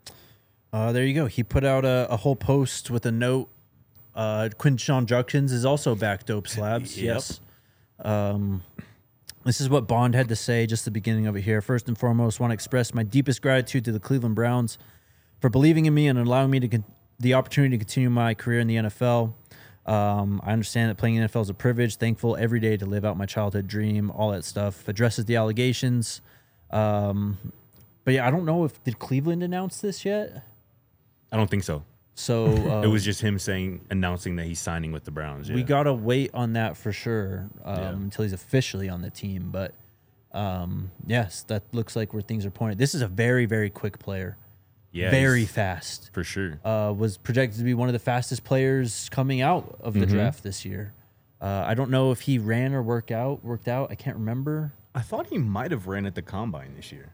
Uh, there you go. He put out a, a whole post with a note. Uh, Quinshon Judkins is also back, dope slabs. Yep. Yes. Um, this is what Bond had to say, just the beginning of it here. First and foremost, want to express my deepest gratitude to the Cleveland Browns for believing in me and allowing me to con- the opportunity to continue my career in the N F L. Um, I understand that playing in the N F L is a privilege. Thankful every day to live out my childhood dream, all that stuff. Addresses the allegations. Um, but yeah, I don't know if did Cleveland announce this yet. I don't think so. So uh, It was just him saying, announcing that he's signing with the Browns. Yeah. we gotta wait on that for sure um, Yeah. until he's officially on the team. But um, yes, that looks like where things are pointed. This is a very very quick player, yeah, very he's- fast. for sure. Uh, was projected to be one of the fastest players coming out of the draft this year. Uh, I don't know if he ran or worked out. Worked out. I can't remember. I thought he might have ran at the combine this year.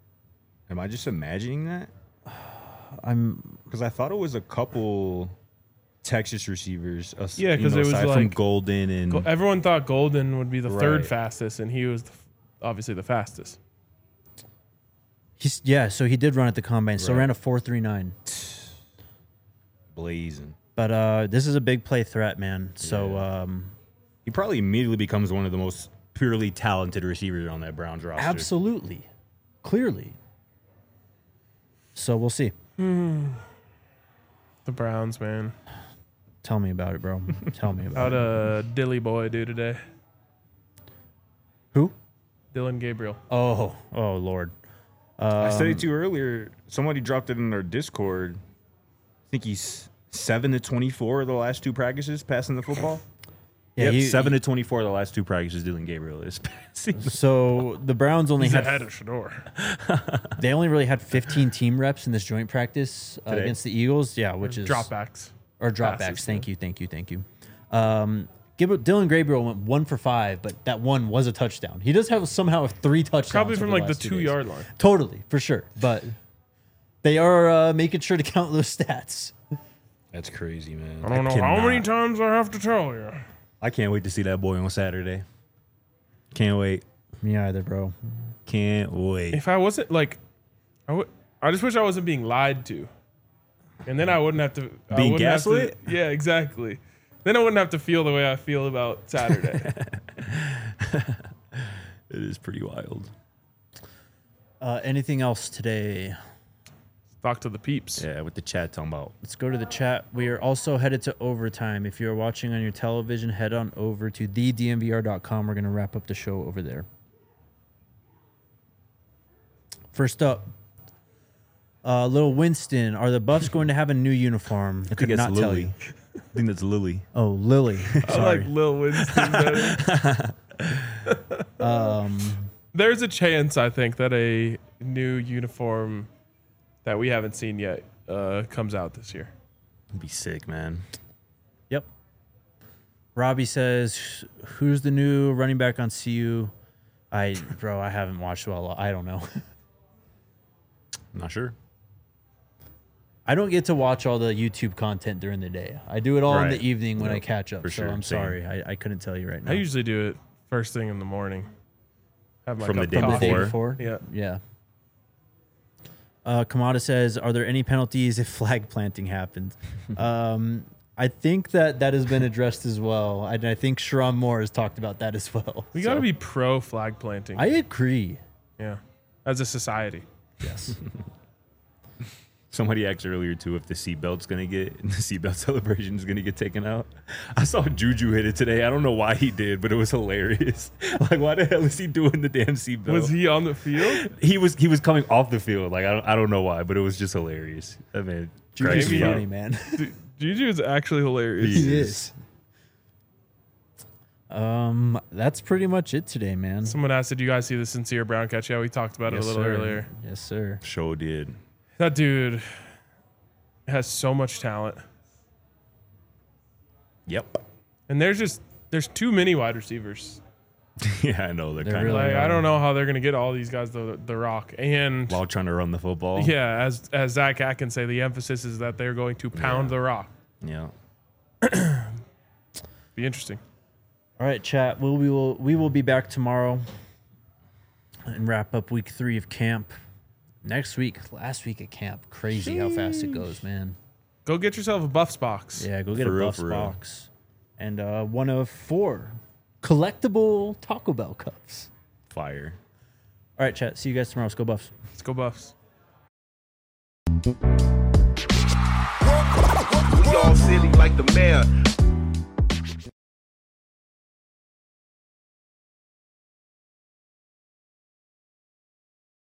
Am I just imagining that? I'm Because I thought it was a couple Texas receivers. us- Yeah, you 'cause know, it was aside from like- Golden and Go- Everyone thought Golden would be the third Right. fastest, and he was the, f- obviously the fastest. he's yeah. So he did run at the combine. So Right. ran a four three nine. blazing. But uh, this is a big play threat, man. So Yeah. um, He probably immediately becomes one of the most purely talented receivers on that Browns roster. absolutely, clearly. So we'll see. The Browns, man. Tell me about it, bro. Tell me about How'd it. uh, Dilly boy do today? Who? Dylan Gabriel. Oh, oh Lord. I said Um, it to you earlier. Somebody dropped it in our Discord. I think he's seven to twenty-four of the last two practices passing the football. Yeah, Yep, he- seven to twenty-four of the last two practices Dylan Gabriel is passing. So the Browns only He's had ahead of Shador. they only really had fifteen team reps in this joint practice uh, Today? against the Eagles. Yeah, which is Dropbacks. or dropbacks. passes, Thank yeah. you, thank you, thank you. Um, Gib- Dylan Gabriel went one for five, but that one was a touchdown. He does have somehow have three touchdowns. Probably from over like the last two two days. yard line. Totally, for sure. But they are uh, making sure to count those stats. That's crazy, man. I don't know how many cannot- times I have to tell you. I can't wait to see that boy on Saturday. Can't wait. Me either, bro. Can't wait. If I wasn't like, I would. I just wish I wasn't being lied to, and then I wouldn't have to. I Being wouldn't have to- gaslit? Yeah, exactly. Then I wouldn't have to feel the way I feel about Saturday. It is pretty wild. Uh, anything else today? talk to the peeps. Yeah, with the chat talking about. Let's go to the chat. We are also headed to overtime. If you're watching on your television, head on over to the d m v r dot com. We're going to wrap up the show over there. First up, uh, little Winston. Are the Buffs going to have a new uniform? I think Could it's not tell Lily. you. I think that's Lily. Oh, Lily. I Sorry. like Lil Winston better. um, There's a chance, I think, that a new uniform that we haven't seen yet uh, comes out this year. It'd be sick, man. Yep. Robbie says, "Who's the new running back on C U?" I, bro, I haven't watched well. I don't know. I'm not sure. I don't get to watch all the YouTube content during the day. I do it all in Right. the evening when Yep, I catch up. for So sure. I'm Same. sorry. I, I couldn't tell you right now. I usually do it first thing in the morning. Have my From cup the day of From the coffee. day before? before? Yeah. Yeah. Uh, Kamada says, "Are there any penalties if flag planting happened?" um, I think that that has been addressed as well. And I think Sharon Moore has talked about that as well. We got to So, be pro flag planting. I agree. yeah. As a society. Yes. Somebody asked earlier too if the seatbelt's gonna get the seatbelt celebration is gonna get taken out. I saw Juju hit it today. I don't know why he did, but it was hilarious. Like, why the hell is he doing the damn seatbelt? Was he on the field? He was. He was coming off the field. Like I don't. I don't know why, but it was just hilarious. I mean, Juju's Maybe- funny, man. Dude, Juju is actually hilarious. He He is. is. Um, that's pretty much it today, man. Someone asked, did you guys see the Sincere Brown catch? Yeah, we talked about Yes, it a little sir. earlier. Yes, sir. Show did. That dude has so much talent. Yep. And there's just, there's too many wide receivers. Yeah, I know they're They're kind of really- Like, are. I don't know how they're going to get all these guys the, the rock. And while trying to run the football. yeah, as, as Zach Atkins say, the emphasis is that they're going to pound Yeah. the rock. Yeah. Be interesting. All right, chat. We'll, we will we will be back tomorrow and wrap up week three of camp. Next week, last week at camp. Crazy how fast it goes, man. Go get yourself a Buffs box. Yeah, go get For a real, Buffs for real. box. And uh, one of four collectible Taco Bell cups. Fire. All right, chat. See you guys tomorrow. Let's go Buffs. Let's go Buffs. We all silly like the mayor.